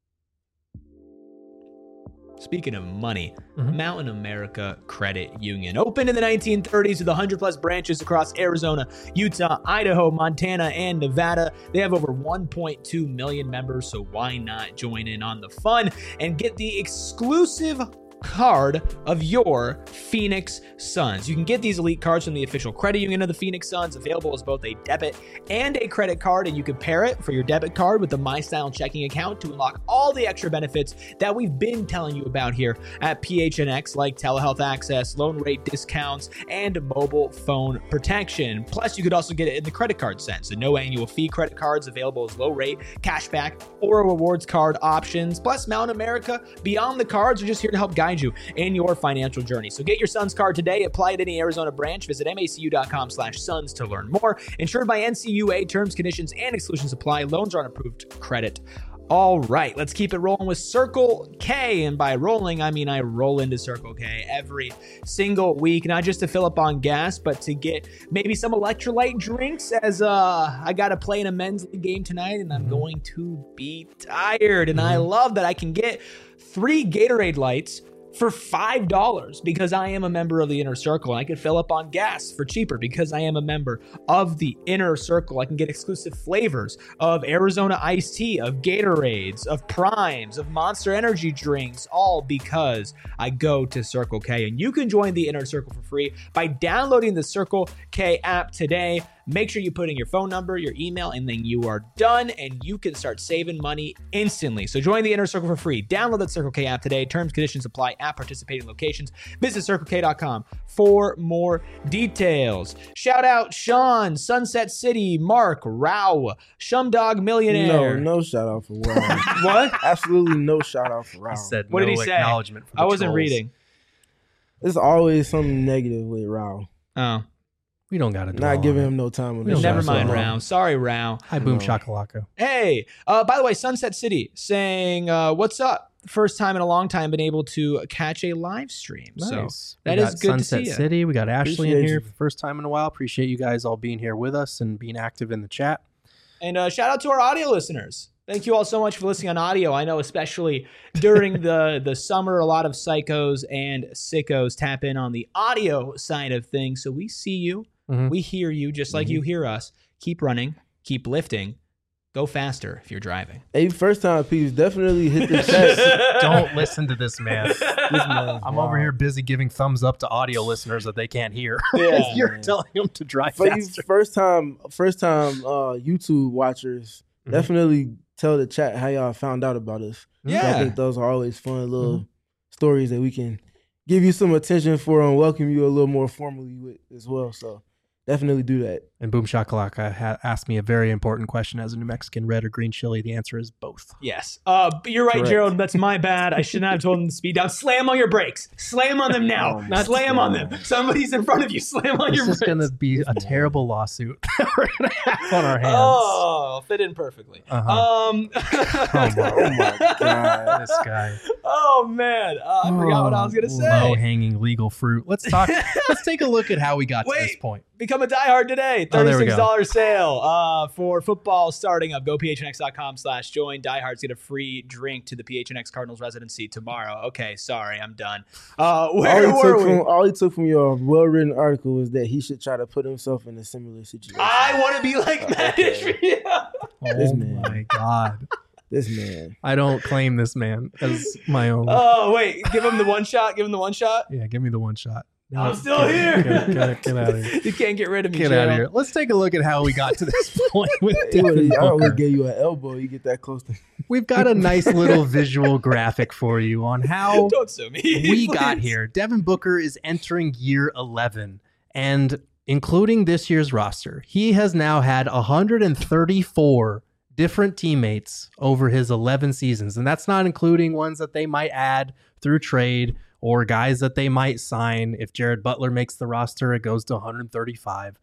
Speaking of money, mm-hmm. Mountain America Credit Union opened in the nineteen thirties with one hundred plus branches across Arizona, Utah, Idaho, Montana, and Nevada. They have over one point two million members, so why not join in on the fun and get the exclusive card of your Phoenix Suns. You can get these elite cards from the official credit union of the Phoenix Suns, available as both a debit and a credit card, and you can pair it for your debit card with the MyStyle checking account to unlock all the extra benefits that we've been telling you about here at P H N X, like telehealth access, loan rate discounts, and mobile phone protection. Plus, you could also get it in the credit card sense. So no annual fee credit cards available as low rate, cashback, or rewards card options. Plus, Mountain America, beyond the cards, are just here to help guide you in your financial journey. So get your Suns card today. Apply at any Arizona branch. Visit macu.com slash Suns to learn more. Insured by N C U A. Terms, conditions, and exclusions apply. Loans are on approved credit. All right, let's keep it rolling with Circle K. And by rolling, I mean I roll into Circle K every single week, not just to fill up on gas, but to get maybe some electrolyte drinks, as uh, I got to play in a men's league game tonight, and I'm mm-hmm. going to be tired. And mm-hmm. I love that I can get three Gatorade lights for five dollars because I am a member of the Inner Circle, and I can fill up on gas for cheaper because I am a member of the Inner Circle. I can get exclusive flavors of Arizona iced tea, of Gatorades, of Primes, of Monster Energy drinks, all because I go to Circle K. And you can join the Inner Circle for free by downloading the Circle K app today. Make sure you put in your phone number, your email, and then you are done, and you can start saving money instantly. So join the Inner Circle for free. Download the Circle K app today. Terms, conditions apply at participating locations. Visit circle k dot com for more details. Shout out Sean, Sunset City, Mark, Rao, Shumdog Millionaire. No, no shout out for Rao. What? Absolutely no shout out for Rao. He said what no did he say? Acknowledgement for the I wasn't trolls. reading. There's always something negative with Rao. Oh. We don't got to do Not giving him no time. On We don't Never gotta mind, do it. Rao. Sorry, Rao. Hi, Boom Shakalaka. Hey, uh, by the way, Sunset City saying, uh, what's up? First time in a long time been able to catch a live stream. Nice. So We that is got good Sunset to see you. City. We got Ashley in Appreciate here you. for the first time in a while. Appreciate you guys all being here with us and being active in the chat. And uh, shout out to our audio listeners. Thank you all so much for listening on audio. I know especially during the, the summer, a lot of psychos and sickos tap in on the audio side of things. So we see you. Mhm. We hear you just like Mhm. you hear us. Keep running. Keep lifting. Go faster if you're driving. Hey, first time peeps, definitely hit the chat. Don't listen to this man. This man, I'm wow. over here busy giving thumbs up to audio listeners that they can't hear. Yeah, You're man. telling them to drive For you faster. first time, first time uh, YouTube watchers, Mhm. definitely tell the chat how y'all found out about us. Yeah. I think those are always fun little stories that we can give you some attention for and welcome you a little more formally with as well. So definitely do that. And Boom Shakalaka ha- asked me a very important question as a New Mexican, red or green chili. The answer is both. Yes. Uh, but you're right, Correct. Gerald. That's my bad. I should not have told them to speed down. Slam on your brakes. Slam on them now. Oh, Not slam on them. Somebody's in front of you. Slam on This your is brakes. going to be a terrible lawsuit that we're going to have on our hands. Oh, fit in perfectly. Uh-huh. Um, Oh, my, Oh my God. this guy. Oh man, uh, I forgot what I was gonna say. Low-hanging legal fruit. Let's talk. Let's take a look at how we got to Wait. this point. Become a diehard today. Oh, there we thirty-six dollars go. sale uh, for football starting up. Go P H N X dot com slash join. Diehards get a free drink to the P H N X Cardinals residency tomorrow. Okay, sorry, I'm done. Uh, All where he, were took we? from, all he took from your well-written article was that he should try to put himself in a similar situation. I want to be like Matt Ishmael. This Oh man. my God. This man. I don't claim this man as my own. Oh wait, give him the one shot. Give him the one shot. Yeah, give me the one shot. I'm No, still get, here. Get, get, get out of here. You can't get rid of me. Get out of Gerald. here. Let's take a look at how we got to this point with He Devin would've- I would Booker. give you an elbow. You get that close to. We've got a nice little visual graphic for you on how Don't sue me. we got please. here. Devin Booker is entering year eleven, and including this year's roster, he has now had one hundred thirty-four different teammates over his eleven seasons, and that's not including ones that they might add through trade or guys that they might sign. If Jared Butler makes the roster, it goes to one hundred thirty-five.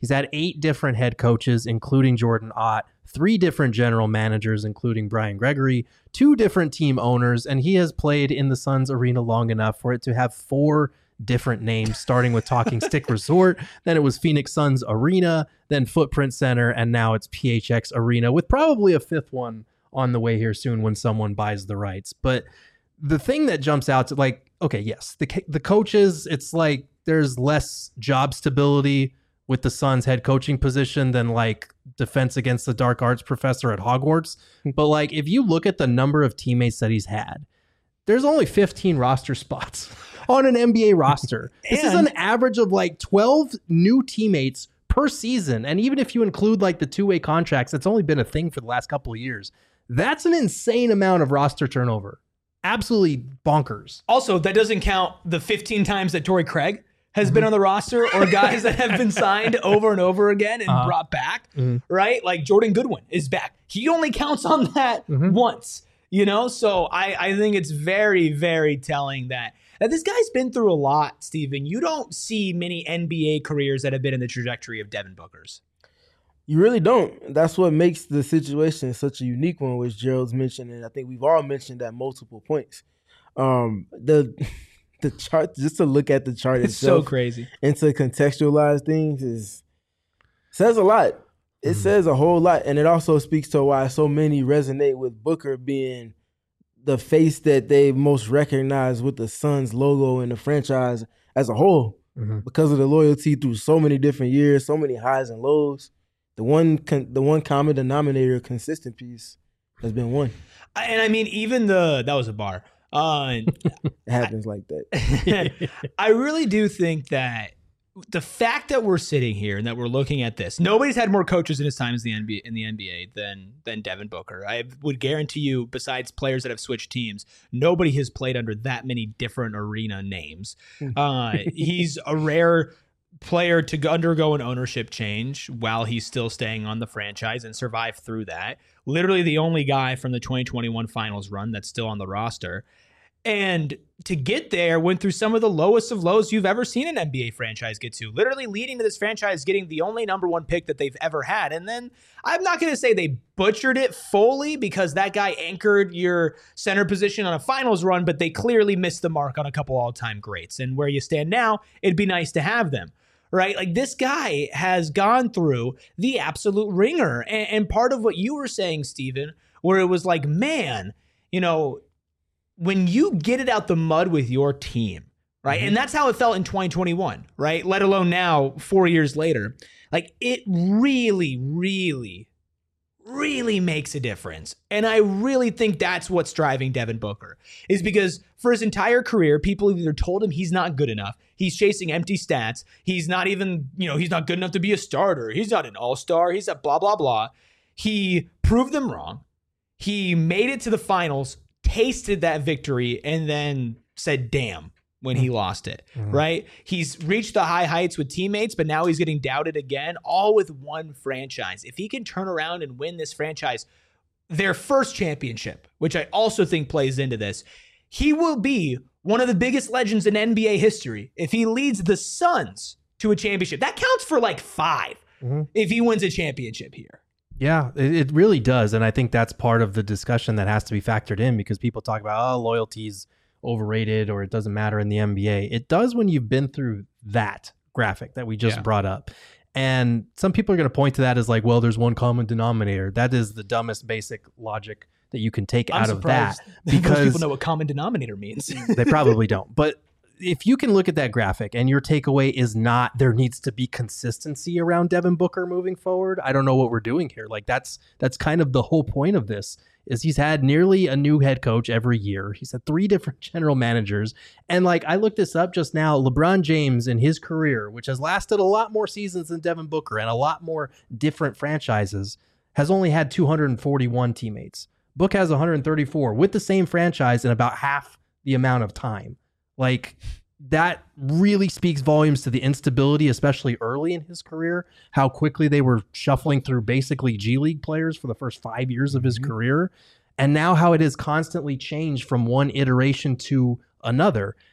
He's had eight different head coaches, including Jordan Ott, three different general managers, including Brian Gregory, two different team owners, and he has played in the Suns arena long enough for it to have four different names, starting with Talking Stick Resort, then it was Phoenix Suns Arena, then Footprint Center, and now it's P H X Arena, with probably a fifth one on the way here soon when someone buys the rights. But the thing that jumps out to, like, okay, yes, the the coaches, it's like there's less job stability with the Suns head coaching position than like Defense Against the Dark Arts professor at Hogwarts. But like, if you look at the number of teammates that he's had, there's only fifteen roster spots on an N B A roster. This is an average of like twelve new teammates per season. And even if you include like the two-way contracts, it's only been a thing for the last couple of years. That's an insane amount of roster turnover. Absolutely bonkers. Also, that doesn't count the fifteen times that Torrey Craig has mm-hmm. been on the roster, or guys that have been signed over and over again and uh-huh. brought back, mm-hmm. right? Like Jordan Goodwin is back. He only counts on that mm-hmm. once, you know? So I, I think it's very, very telling that, that this guy's been through a lot, Steven. You don't see many N B A careers that have been in the trajectory of Devin Booker's. You really don't. That's what makes the situation such a unique one, which Gerald's mentioned, and I think we've all mentioned at multiple points. Um, the the chart, just to look at the chart it's itself, so crazy, and to contextualize things is says a lot. It mm-hmm. says a whole lot, and it also speaks to why so many resonate with Booker being the face that they most recognize with the Suns logo and the franchise as a whole, mm-hmm. because of the loyalty through so many different years, so many highs and lows. The one, con- the one common denominator, consistent piece, has been one. And I mean, even the that was a bar. Uh, it happens I, like that. I really do think that the fact that we're sitting here and that we're looking at this, nobody's had more coaches in his time as the N B A, in the N B A than than Devin Booker. I would guarantee you, besides players that have switched teams, nobody has played under that many different arena names. Uh, he's a rare player to undergo an ownership change while he's still staying on the franchise and survive through that. Literally the only guy from the twenty twenty-one finals run that's still on the roster. And to get there, went through some of the lowest of lows you've ever seen an N B A franchise get to, literally leading to this franchise getting the only number one pick that they've ever had. And then I'm not going to say they butchered it fully, because that guy anchored your center position on a finals run, but they clearly missed the mark on a couple all-time greats. And where you stand now, it'd be nice to have them. Right? Like, this guy has gone through the absolute ringer. And, and part of what you were saying, Steven, where it was like, man, you know, when you get it out the mud with your team, right? Mm-hmm. And that's how it felt in twenty twenty-one, right? Let alone now, four years later. Like, it really, really, really makes a difference. And I really think that's what's driving Devin Booker, is because for his entire career, people either told him he's not good enough, he's chasing empty stats, he's not even, you know, he's not good enough to be a starter, he's not an all-star, he's a blah, blah, blah. He proved them wrong. He made it to the finals, tasted that victory, and then said, damn, when he lost it, mm-hmm. right? He's reached the high heights with teammates, but now he's getting doubted again, all with one franchise. If he can turn around and win this franchise their first championship, which I also think plays into this, he will be one of the biggest legends in N B A history if he leads the Suns to a championship. That counts for like five mm-hmm. if he wins a championship here. Yeah, it, it really does. And I think that's part of the discussion that has to be factored in, because people talk about, oh, loyalty's overrated or it doesn't matter in the N B A. It does when you've been through that graphic that we just yeah. brought up. And some people are going to point to that as like, well, there's one common denominator. That is the dumbest basic logic that you can take I'm out of that. Because most people know what common denominator means. They probably don't. But if you can look at that graphic and your takeaway is not there needs to be consistency around Devin Booker moving forward, I don't know what we're doing here. Like, that's that's kind of the whole point of this, is he's had nearly a new head coach every year. He's had three different general managers. And like, I looked this up just now, LeBron James in his career, which has lasted a lot more seasons than Devin Booker and a lot more different franchises, has only had two hundred forty-one teammates. Book has one hundred thirty-four with the same franchise in about half the amount of time. Like, that really speaks volumes to the instability, especially early in his career, how quickly they were shuffling through basically G League players for the first five years of his mm-hmm. career. And now how it has constantly changed from one iteration to another.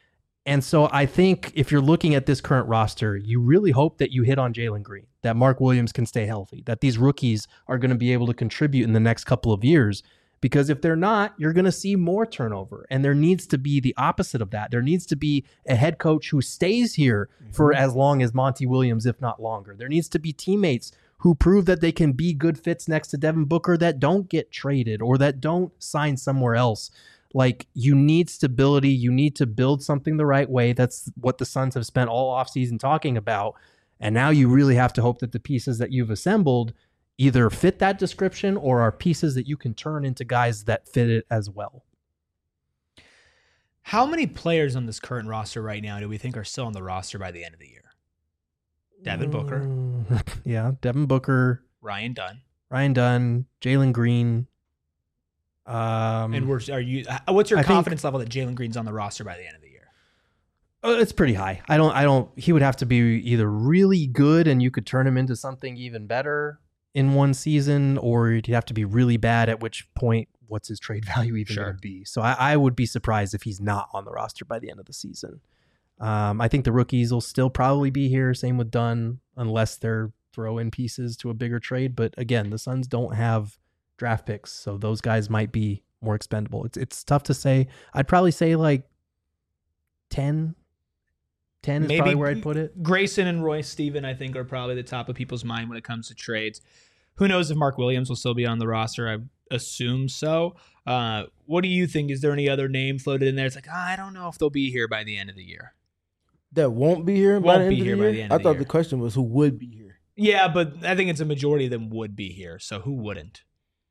And so I think if you're looking at this current roster, you really hope that you hit on Jalen Green, that Mark Williams can stay healthy, that these rookies are going to be able to contribute in the next couple of years. Because if they're not, you're going to see more turnover. And there needs to be the opposite of that. There needs to be a head coach who stays here mm-hmm. for as long as Monty Williams, if not longer. There needs to be teammates who prove that they can be good fits next to Devin Booker that don't get traded or that don't sign somewhere else. Like, you need stability. You need to build something the right way. That's what the Suns have spent all offseason talking about. And now you really have to hope that the pieces that you've assembled either fit that description or are pieces that you can turn into guys that fit it as well. How many players on this current roster right now do we think are still on the roster by the end of the year? Devin Booker. Mm, yeah, Devin Booker. Ryan Dunn. Ryan Dunn. Jalen Green. Um, and we're, are you? What's your I confidence think, level that Jalen Green's on the roster by the end of the year? Uh, it's pretty high. I don't. I don't. He would have to be either really good and you could turn him into something even better in one season, or he'd have to be really bad, at which point what's his trade value even sure. going to be? So I, I would be surprised if he's not on the roster by the end of the season. Um, I think the rookies will still probably be here. Same with Dunn, unless they're throw-in pieces to a bigger trade. But again, the Suns don't have draft picks, so those guys might be more expendable. It's it's tough to say. I'd probably say like ten. ten is Maybe probably where I'd put it. Grayson and Royce Steven, I think, are probably the top of people's mind when it comes to trades. Who knows if Mark Williams will still be on the roster? I assume so. Uh, what do you think? Is there any other name floated in there? It's like, oh, I don't know if they'll be here by the end of the year. That won't be here won't by the end be of here the by year? the end I of the thought year. the question was who would be here. Yeah, but I think it's a majority of them would be here. So who wouldn't?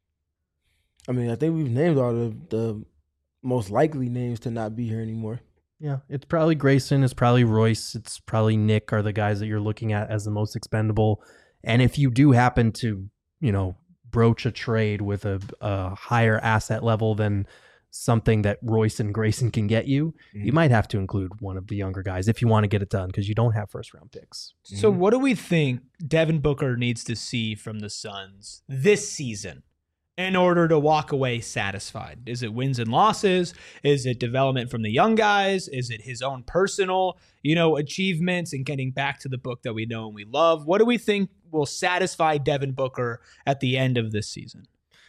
I mean, I think we've named all the, the most likely names to not be here anymore. Yeah, it's probably Grayson, it's probably Royce, it's probably Nick are the guys that you're looking at as the most expendable. And if you do happen to, you know, broach a trade with a, a higher asset level than something that Royce and Grayson can get you, mm-hmm. you might have to include one of the younger guys if you want to get it done, because you don't have first round picks. So mm-hmm. what do we think Devin Booker needs to see from the Suns this season in order to walk away satisfied? Is it wins and losses? Is it development from the young guys? Is it his own personal, you know, achievements and getting back to the book that we know and we love? What do we think will satisfy Devin Booker at the end of this season?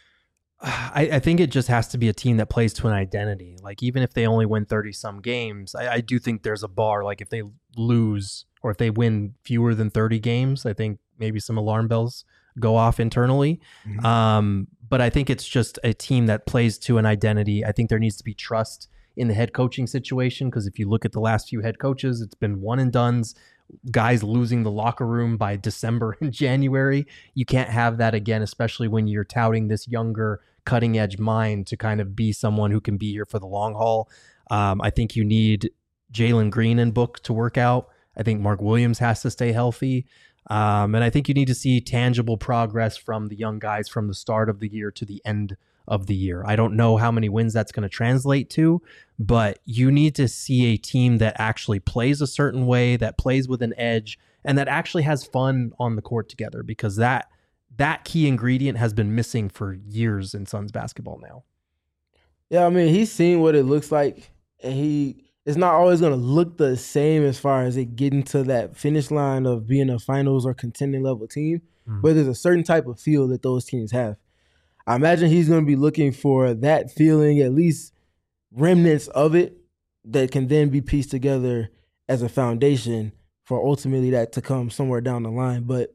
I, I think it just has to be a team that plays to an identity. Like, even if they only win thirty some games, I, I do think there's a bar. Like, if they lose or if they win fewer than thirty games, I think maybe some alarm bells go off internally. Mm-hmm. Um, but I think it's just a team that plays to an identity. I think there needs to be trust in the head coaching situation, because if you look at the last few head coaches, it's been one and dones, guys losing the locker room by December and January. You can't have that again, especially when you're touting this younger, cutting edge mind to kind of be someone who can be here for the long haul. Um, I think you need Jalen Green and Book to work out. I think Mark Williams has to stay healthy. Um, and I think you need to see tangible progress from the young guys from the start of the year to the end of the year. I don't know how many wins that's going to translate to, but you need to see a team that actually plays a certain way, that plays with an edge, and that actually has fun on the court together, because that that key ingredient has been missing for years in Suns basketball now. Yeah, I mean, he's seen what it looks like, and he it's not always going to look the same as far as it getting to that finish line of being a finals or contending level team, mm-hmm. but there's a certain type of feel that those teams have. I imagine he's going to be looking for that feeling, at least remnants of it, that can then be pieced together as a foundation for ultimately that to come somewhere down the line. But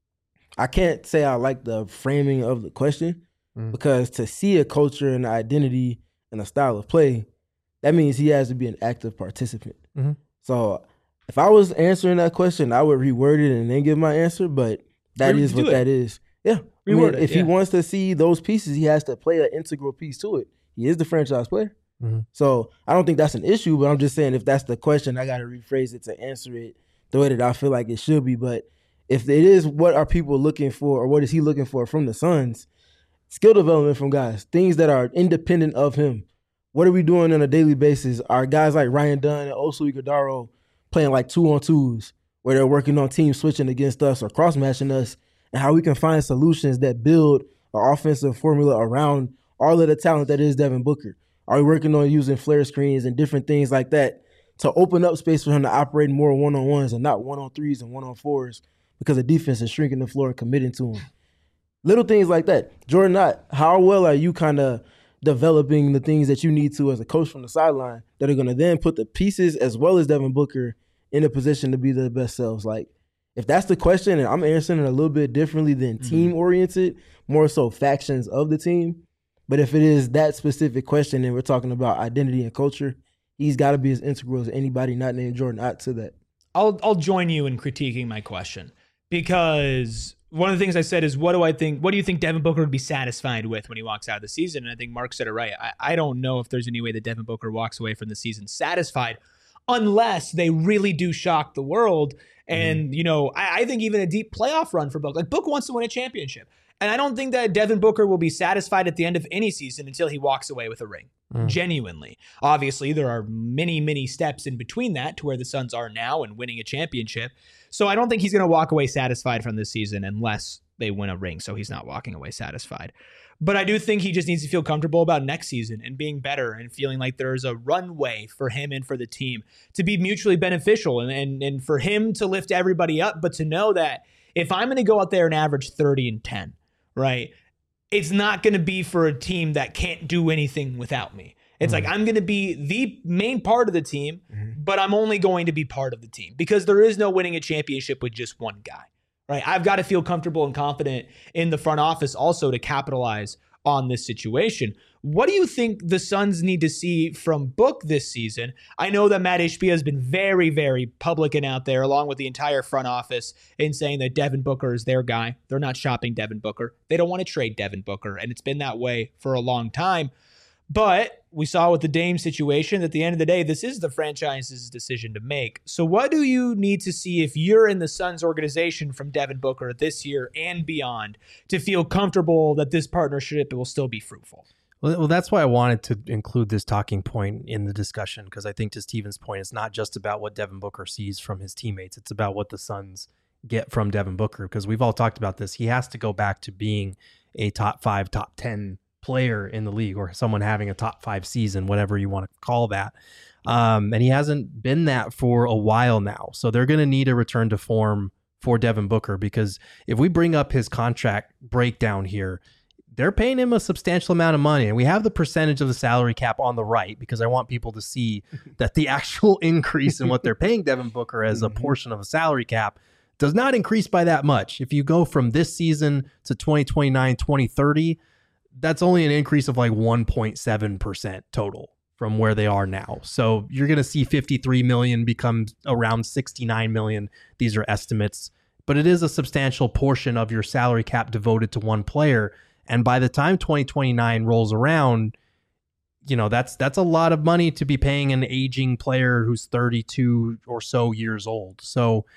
I can't say I like the framing of the question, mm. because to see a culture and identity and a style of play, that means he has to be an active participant. Mm-hmm. So if I was answering that question, I would reword it and then give my answer, but that Re- is what it. that is. Yeah. I mean, it, if yeah. he wants to see those pieces, he has to play an integral piece to it. He is the franchise player. Mm-hmm. So I don't think that's an issue, but I'm just saying if that's the question, I got to rephrase it to answer it the way that I feel like it should be. But if it is what are people looking for, or what is he looking for from the Suns, skill development from guys, things that are independent of him. What are we doing on a daily basis? Are guys like Ryan Dunn and Oso Ighodaro playing like two-on-twos where they're working on team switching against us or cross-matching us, and how we can find solutions that build an offensive formula around all of the talent that is Devin Booker? Are we working on using flare screens and different things like that to open up space for him to operate more one-on-ones and not one-on-threes and one-on-fours because the defense is shrinking the floor and committing to him. Little things like that. Jordan Knott, how well are you kind of developing the things that you need to as a coach from the sideline that are going to then put the pieces as well as Devin Booker in a position to be their best selves? Like, if that's the question, and I'm answering it a little bit differently than Mm-hmm. team-oriented, more so factions of the team. But if it is that specific question and we're talking about identity and culture, he's got to be as integral as anybody not named Jordan Knott to that. I'll I'll join you in critiquing my question, because one of the things I said is, what do I think? What do you think Devin Booker would be satisfied with when he walks out of the season? And I think Mark said it right. I, I don't know if there's any way that Devin Booker walks away from the season satisfied, unless they really do shock the world. And, mm-hmm. you know, I, I think even a deep playoff run for Book. Like, Book wants to win a championship. And I don't think that Devin Booker will be satisfied at the end of any season until he walks away with a ring. Mm. Genuinely. Obviously, there are many, many steps in between that to where the Suns are now and winning a championship. So I don't think he's going to walk away satisfied from this season unless they win a ring. So he's not walking away satisfied. But I do think he just needs to feel comfortable about next season and being better and feeling like there's a runway for him and for the team to be mutually beneficial and, and, and for him to lift everybody up. But to know that if I'm going to go out there and average thirty and ten, right, it's not going to be for a team that can't do anything without me. It's mm-hmm. like, I'm going to be the main part of the team, mm-hmm. but I'm only going to be part of the team because there is no winning a championship with just one guy, right? I've got to feel comfortable and confident in the front office also to capitalize on this situation. What do you think the Suns need to see from Book this season? I know that Matt Ishbia has been very, very public and out there, along with the entire front office, in saying that Devin Booker is their guy. They're not shopping Devin Booker. They don't want to trade Devin Booker, and it's been that way for a long time. But we saw with the Dame situation, at the end of the day, this is the franchise's decision to make. So what do you need to see if you're in the Suns organization from Devin Booker this year and beyond to feel comfortable that this partnership will still be fruitful? Well, well, that's why I wanted to include this talking point in the discussion, because I think to Steven's point, it's not just about what Devin Booker sees from his teammates. It's about what the Suns get from Devin Booker, because we've all talked about this. He has to go back to being a top five, top ten player in the league, or someone having a top five season, whatever you want to call that. Um, and he hasn't been that for a while now. So they're going to need a return to form for Devin Booker, because if we bring up his contract breakdown here, they're paying him a substantial amount of money. And we have the percentage of the salary cap on the right, because I want people to see that the actual increase in what they're paying Devin Booker as a portion of a salary cap does not increase by that much. If you go from this season to twenty twenty-nine, twenty thirty, that's only an increase of like one point seven percent total from where they are now. So you're going to see fifty-three million become around sixty-nine million. These are estimates, but it is a substantial portion of your salary cap devoted to one player. And by the time twenty twenty-nine rolls around, you know, that's that's a lot of money to be paying an aging player who's thirty-two or so years old. So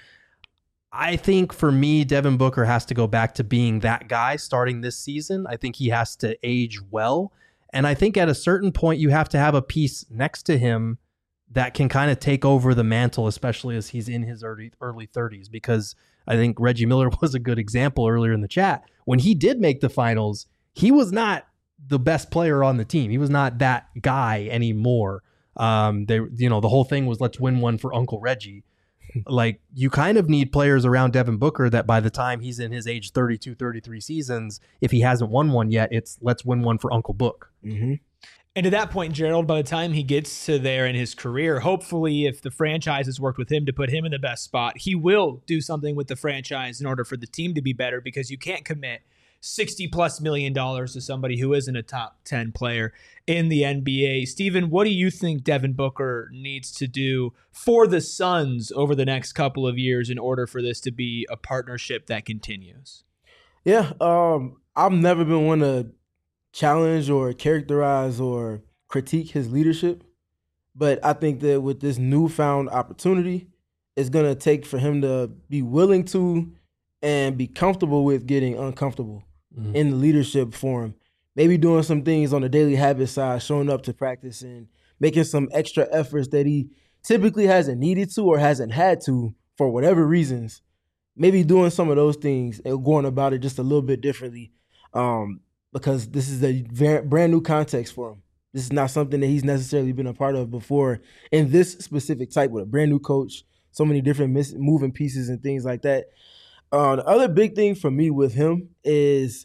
I think for me, Devin Booker has to go back to being that guy starting this season. I think he has to age well. And I think at a certain point, you have to have a piece next to him that can kind of take over the mantle, especially as he's in his early, early thirties, because I think Reggie Miller was a good example earlier in the chat. When he did make the finals, he was not the best player on the team. He was not that guy anymore. Um, they, you know, the whole thing was, let's win one for Uncle Reggie. Like, you kind of need players around Devin Booker that by the time he's in his age thirty-two, thirty-three seasons, if he hasn't won one yet, it's let's win one for Uncle Book. Mm-hmm. And to that point, Gerald, by the time he gets to there in his career, hopefully if the franchise has worked with him to put him in the best spot, he will do something with the franchise in order for the team to be better, because you can't commit sixty plus million dollars to somebody who isn't a top ten player in the N B A. Steven, what do you think Devin Booker needs to do for the Suns over the next couple of years in order for this to be a partnership that continues? Yeah, um, I've never been one to challenge or characterize or critique his leadership, but I think that with this newfound opportunity, it's going to take for him to be willing to and be comfortable with getting uncomfortable mm-hmm. in the leadership forum. Maybe doing some things on the daily habit side, showing up to practice and making some extra efforts that he typically hasn't needed to or hasn't had to for whatever reasons. Maybe doing some of those things and going about it just a little bit differently, um, because this is a very, brand new context for him. This is not something that he's necessarily been a part of before in this specific type with a brand new coach, so many different miss- moving pieces and things like that. Uh, the other big thing for me with him is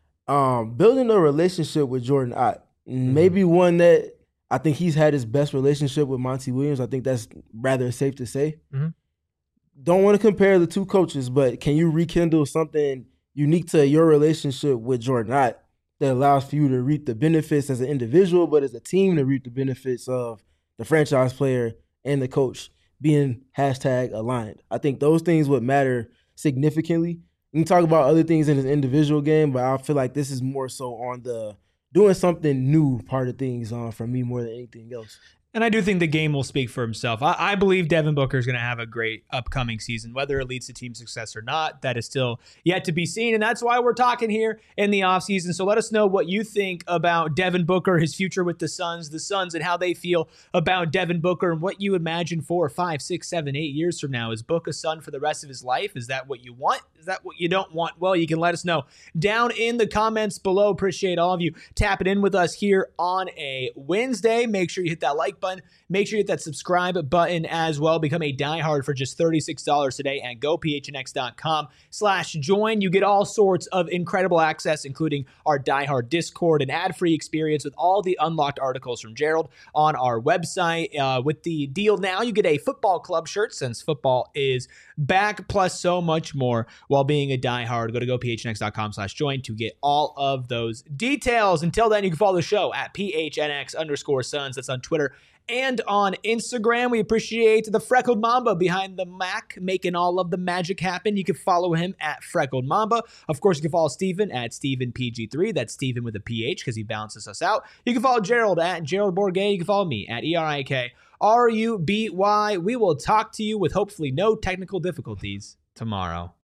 um, building a relationship with Jordan Ott. Mm-hmm. Maybe one that I think he's had his best relationship with Monty Williams. I think that's rather safe to say. Mm-hmm. Don't want to compare the two coaches, but can you rekindle something unique to your relationship with Jordan Ott that allows for you to reap the benefits as an individual, but as a team to reap the benefits of the franchise player and the coach being hashtag aligned? I think those things would matter significantly. You can talk about other things in his individual game, but I feel like this is more so on the doing something new part of things uh, for me more than anything else. And I do think the game will speak for himself. I, I believe Devin Booker is going to have a great upcoming season. Whether it leads to team success or not, that is still yet to be seen. And that's why we're talking here in the offseason. So let us know what you think about Devin Booker, his future with the Suns, the Suns, and how they feel about Devin Booker and what you imagine four, five, six, seven, eight years from now. Is Book a Sun for the rest of his life? Is that what you want? Is that what you don't want? Well, you can let us know down in the comments below. Appreciate all of you tapping in with us here on a Wednesday. Make sure you hit that like button. Make sure you hit that subscribe button as well. Become a diehard for just thirty-six dollars today and gophnx.com slash join. You get all sorts of incredible access, including our diehard Discord, an ad-free experience with all the unlocked articles from Gerald on our website. Uh, with the deal now, you get a football club shirt since football is back, plus so much more while being a diehard. Go to gophnx.com slash join to get all of those details. Until then, you can follow the show at phnx underscore Suns. That's on Twitter and on Instagram. We appreciate the Freckled Mamba behind the Mac making all of the magic happen. You can follow him at Freckled Mamba. Of course, you can follow Steven at Steven P G three. That's Steven with a P H because he balances us out. You can follow Gerald at Gerald Bourguet. You can follow me at E R I K R U B Y. We will talk to you with hopefully no technical difficulties tomorrow.